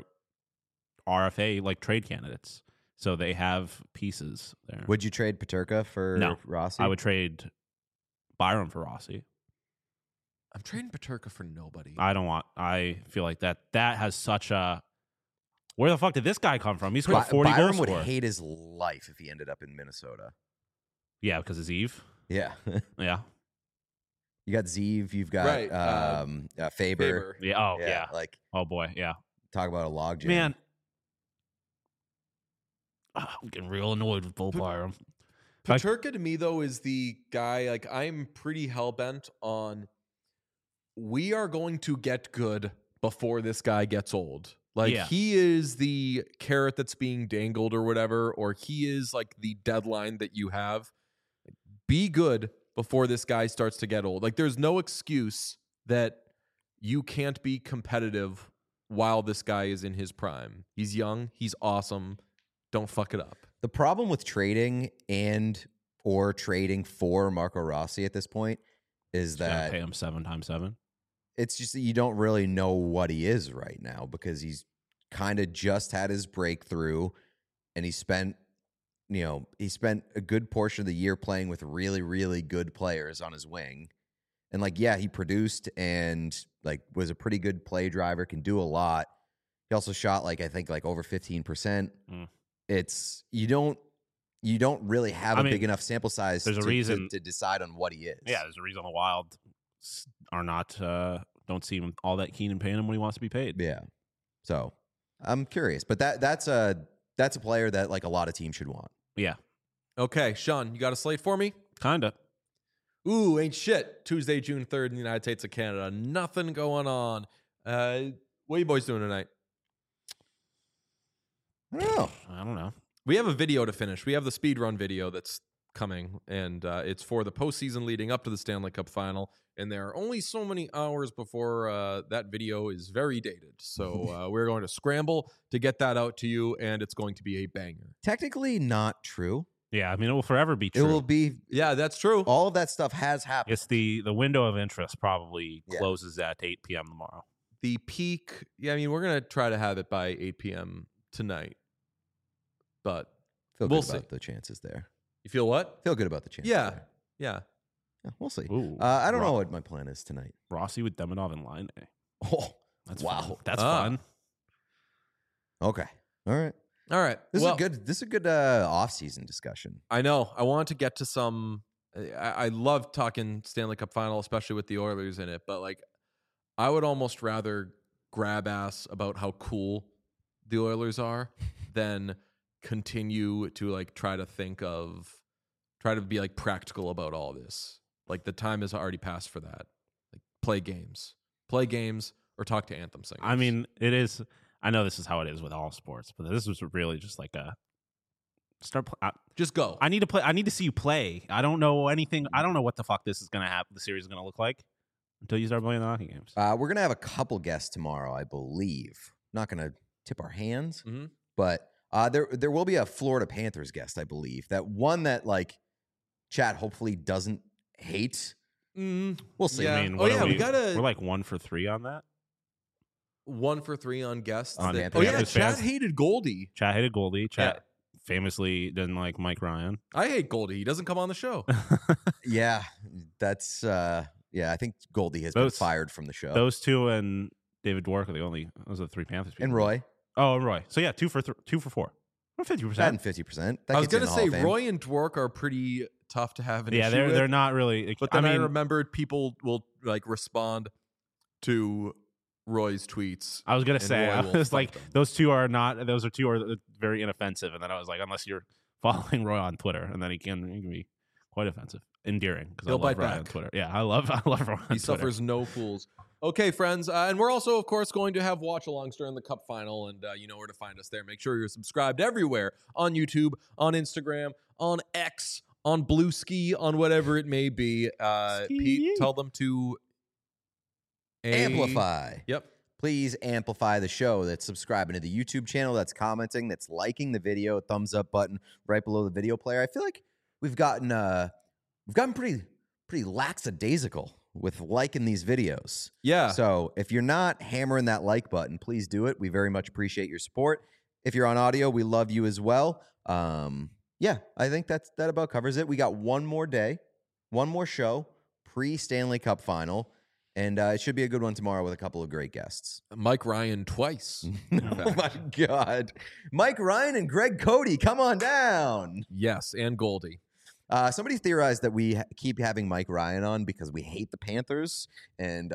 B: RFA like trade candidates. So they have pieces there.
C: Would you trade Peterka for
B: No.
C: Rossi?
B: I would trade Byram for Rossi.
A: I'm trading Peterka for nobody.
B: I feel like that has such a, where the fuck did this guy come from? He's scored 40
C: Byram
B: goals
C: would
B: for.
C: hate his life if he ended up in Minnesota.
B: Yeah, because of Eve.
C: Yeah.
B: Yeah.
C: You got Zeev, you've got
A: Right,
C: Faber.
A: Faber.
B: Yeah. Oh,
C: Yeah,
B: yeah.
C: like
B: Oh, boy. Yeah.
C: talk about a logjam.
B: Man, I'm getting real annoyed with Bo Byram.
A: Peterka to me though is the guy. Like I'm pretty hell bent on. We are going to get good before this guy gets old. Like
B: Yeah.
A: he is the carrot that's being dangled or whatever, or he is like the deadline that you have. Be good before this guy starts to get old. Like there's no excuse that you can't be competitive while this guy is in his prime. He's young. He's awesome. Don't fuck it up.
C: The problem with trading or trading for Marco Rossi at this point is
B: Gotta
C: that
B: pay him 7 times 7.
C: it's just that you don't really know what he is right now because he's kind of just had his breakthrough and he spent a good portion of the year playing with really, really good players on his wing. And like, yeah, he produced and like was a pretty good play driver, can do a lot. He also shot like, I think like over 15%. It's, you don't really have a big enough sample size
B: there's a reason
C: to decide on what he is.
B: Yeah, there's a reason the Wild are not don't seem all that keen in paying him when he wants to be paid.
C: Yeah. So I'm curious, but that's a player that like a lot of teams should want.
B: Yeah,
A: Okay, Sean, you got a slate for me?
B: kinda.
A: Ooh, ain't shit. Tuesday, June 3rd in the United States of Canada. Nothing going on. What are you boys doing tonight?
C: I
B: don't know.
A: We have a video to finish. We have the speed run video that's coming, and it's for the postseason leading up to the Stanley Cup final. And there are only so many hours before that video is very dated. So we're going to scramble to get that out to you, and it's going to be a banger.
C: Technically not true.
B: Yeah, I mean it will forever be true.
C: It will be.
A: Yeah, that's true.
C: All of that stuff has happened.
B: It's the window of interest probably
C: Yeah.
B: closes at 8 p.m. tomorrow.
A: The peak, yeah, I mean, we're going to try to have it by 8 p.m. tonight. But
C: Feel
A: we'll
C: good
A: see.
C: about the chances there.
A: You feel what?
C: Feel good about the chances.
A: Yeah.
C: there.
A: Yeah.
C: Yeah, we'll see.
B: Ooh,
C: I don't know what my plan is tonight.
B: Rossi with Demidov and Line.
C: Oh,
B: That's
C: wow.
B: fun. That's
A: Ah.
B: fun.
C: Okay. All right.
A: All right.
C: This
A: Well,
C: is a good off-season discussion.
A: I know. I want to get to some. I love talking Stanley Cup final, especially with the Oilers in it. But like, I would almost rather grab ass about how cool the Oilers are than continue to like try to be like practical about all this. Like the time has already passed for that. Like play games, or talk to anthem singers.
B: I mean, it is. I know this is how it is with all sports, but this was really just like a start.
A: Just go.
B: I need to play. I need to see you play. I don't know anything. I don't know what the fuck this is gonna happen. The series is gonna look like until you start playing the hockey games.
C: We're gonna have a couple guests tomorrow, I believe. Not gonna tip our hands,
A: Mhm.
C: but there will be a Florida Panthers guest, I believe. That one that like Chad hopefully doesn't hate. We'll see.
A: Yeah.
B: I mean,
A: Oh,
B: what
A: yeah,
B: are
A: we gotta-
B: We're like 1 for 3 on that.
A: 1 for 3 on guests.
C: On
A: that-
C: Panthers
A: oh yeah,
B: fans.
A: Chad hated Goldie.
B: Chat hated Goldie. Chat famously didn't like Mike Ryan.
A: I hate Goldie. He doesn't come on the show.
C: Yeah, that's I think Goldie has been
B: Those-
C: fired from the show.
B: Those two and David Dwork are those are the 3 Panthers people.
C: And Roy,
B: Oh, and Roy. So yeah, 2 for 4. 50%.
C: 50%.
A: I was gonna say Roy and Dwork are pretty tough to have an
B: Yeah,
A: issue
B: they're
A: with,
B: not really.
A: But then I remembered people will like respond to Roy's tweets.
B: I was gonna
A: and
B: say,
A: Roy
B: I
A: will
B: was
A: fight
B: like,
A: them.
B: those two are very inoffensive, and then I was like, unless you're following Roy on Twitter, and then he can be quite offensive, endearing because I
A: He'll
B: love
A: bite
B: Roy on
A: back.
B: Twitter. Yeah, I love Roy on Twitter.
A: He suffers no fools. Okay, friends, and we're also, of course, going to have watch-alongs during the Cup final, and you know where to find us there. Make sure you're subscribed everywhere on YouTube, on Instagram, on X, on Blue Ski, on whatever it may be. Pete, tell them to
C: Amplify.
A: Yep.
C: Please amplify the show. That's subscribing to the YouTube channel. That's commenting. That's liking the video. Thumbs up button right below the video player. I feel like we've gotten pretty lackadaisical with liking these videos.
A: Yeah.
C: So if you're not hammering that like button, please do it. We very much appreciate your support. If you're on audio, we love you as well. Yeah, I think that about covers it. We got one more day, one more show, pre-Stanley Cup final, and it should be a good one tomorrow with a couple of great guests.
A: Mike Ryan twice.
C: Oh my God. Mike Ryan and Greg Cody, come on down.
A: Yes, and Goldie.
C: Somebody theorized that we keep having Mike Ryan on because we hate the Panthers and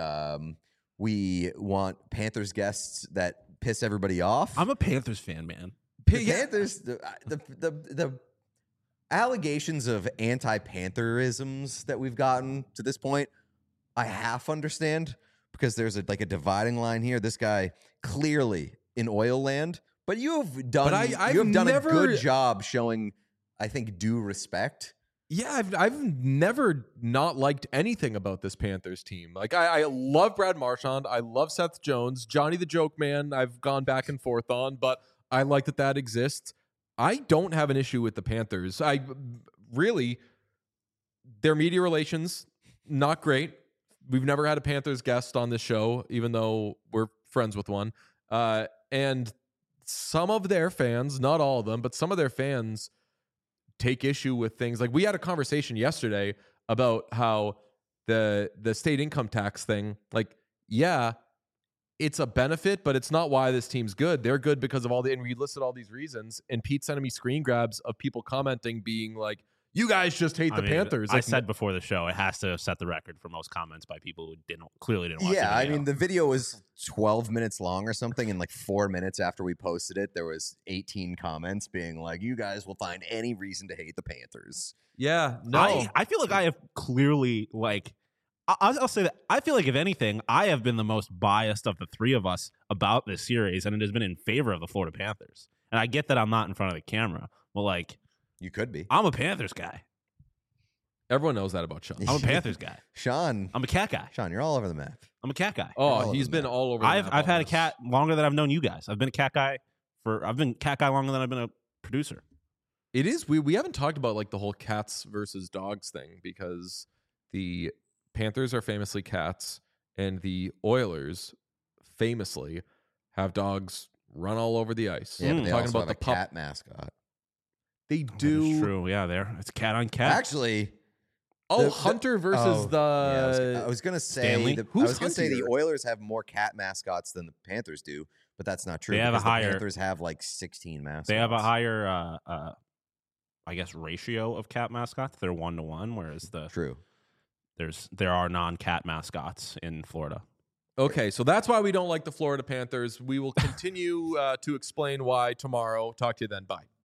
C: we want Panthers guests that piss everybody off.
B: I'm a Panthers fan, man.
C: The Panthers, the allegations of anti-Pantherisms that we've gotten to this point, I half understand because there's a dividing line here. This guy clearly in oil land, but you've done a good job showing, I think, due respect.
A: Yeah, I've never not liked anything about this Panthers team. Like I love Brad Marchand, I love Seth Jones, Johnny the Joke Man. I've gone back and forth on, but I like that exists. I don't have an issue with the Panthers. I really, their media relations not great. We've never had a Panthers guest on this show, even though we're friends with one. And some of their fans, not all of them, but some of their fans take issue with things. Like we had a conversation yesterday about how the state income tax thing, like, yeah, it's a benefit, but it's not why this team's good. They're good because of and we listed all these reasons. And Pete sent me screen grabs of people commenting being like, you guys just hate the Panthers.
B: I said before the show, it has to set the record for most comments by people who clearly didn't watch
C: Yeah,
B: the video.
C: I mean, the video was 12 minutes long or something, and like 4 minutes after we posted it, there was 18 comments being like, you guys will find any reason to hate the Panthers.
A: Yeah, no.
B: I feel like I have clearly, like, I'll say that I feel like, if anything, I have been the most biased of the three of us about this series, and it has been in favor of the Florida Panthers. And I get that I'm not in front of the camera, but, like,
C: you could be.
B: I'm a Panthers guy.
A: Everyone knows that about Sean.
B: I'm a Panthers guy.
C: Sean.
B: I'm a cat guy.
C: Sean, you're all over the map.
B: I'm a cat guy.
A: Oh, he's been all over the map.
B: I've had a cat longer than I've known you guys. I've been a cat guy longer than I've been a producer.
A: It is. We haven't talked about like the whole cats versus dogs thing, because the Panthers are famously cats and the Oilers famously have dogs run all over the ice.
C: Yeah, but they
A: talking
C: also
A: about
C: have
A: the
C: a cat mascot.
A: They
B: That
A: do.
B: is true. Yeah, it's cat on cat.
C: Actually,
A: Hunter versus
C: I was gonna say
B: Stanley?
C: I
A: Who's
C: was gonna say the
A: Hunter?
C: Oilers have more cat mascots than the Panthers do, but that's not true.
B: They have a
C: because the
B: higher-
C: Panthers have like 16 mascots.
B: They have a higher, I guess, ratio of cat mascots. They're 1-to-1, whereas
C: True.
B: there are non-cat mascots in Florida.
A: Okay, so that's why we don't like the Florida Panthers. We will continue to explain why tomorrow. Talk to you then. Bye.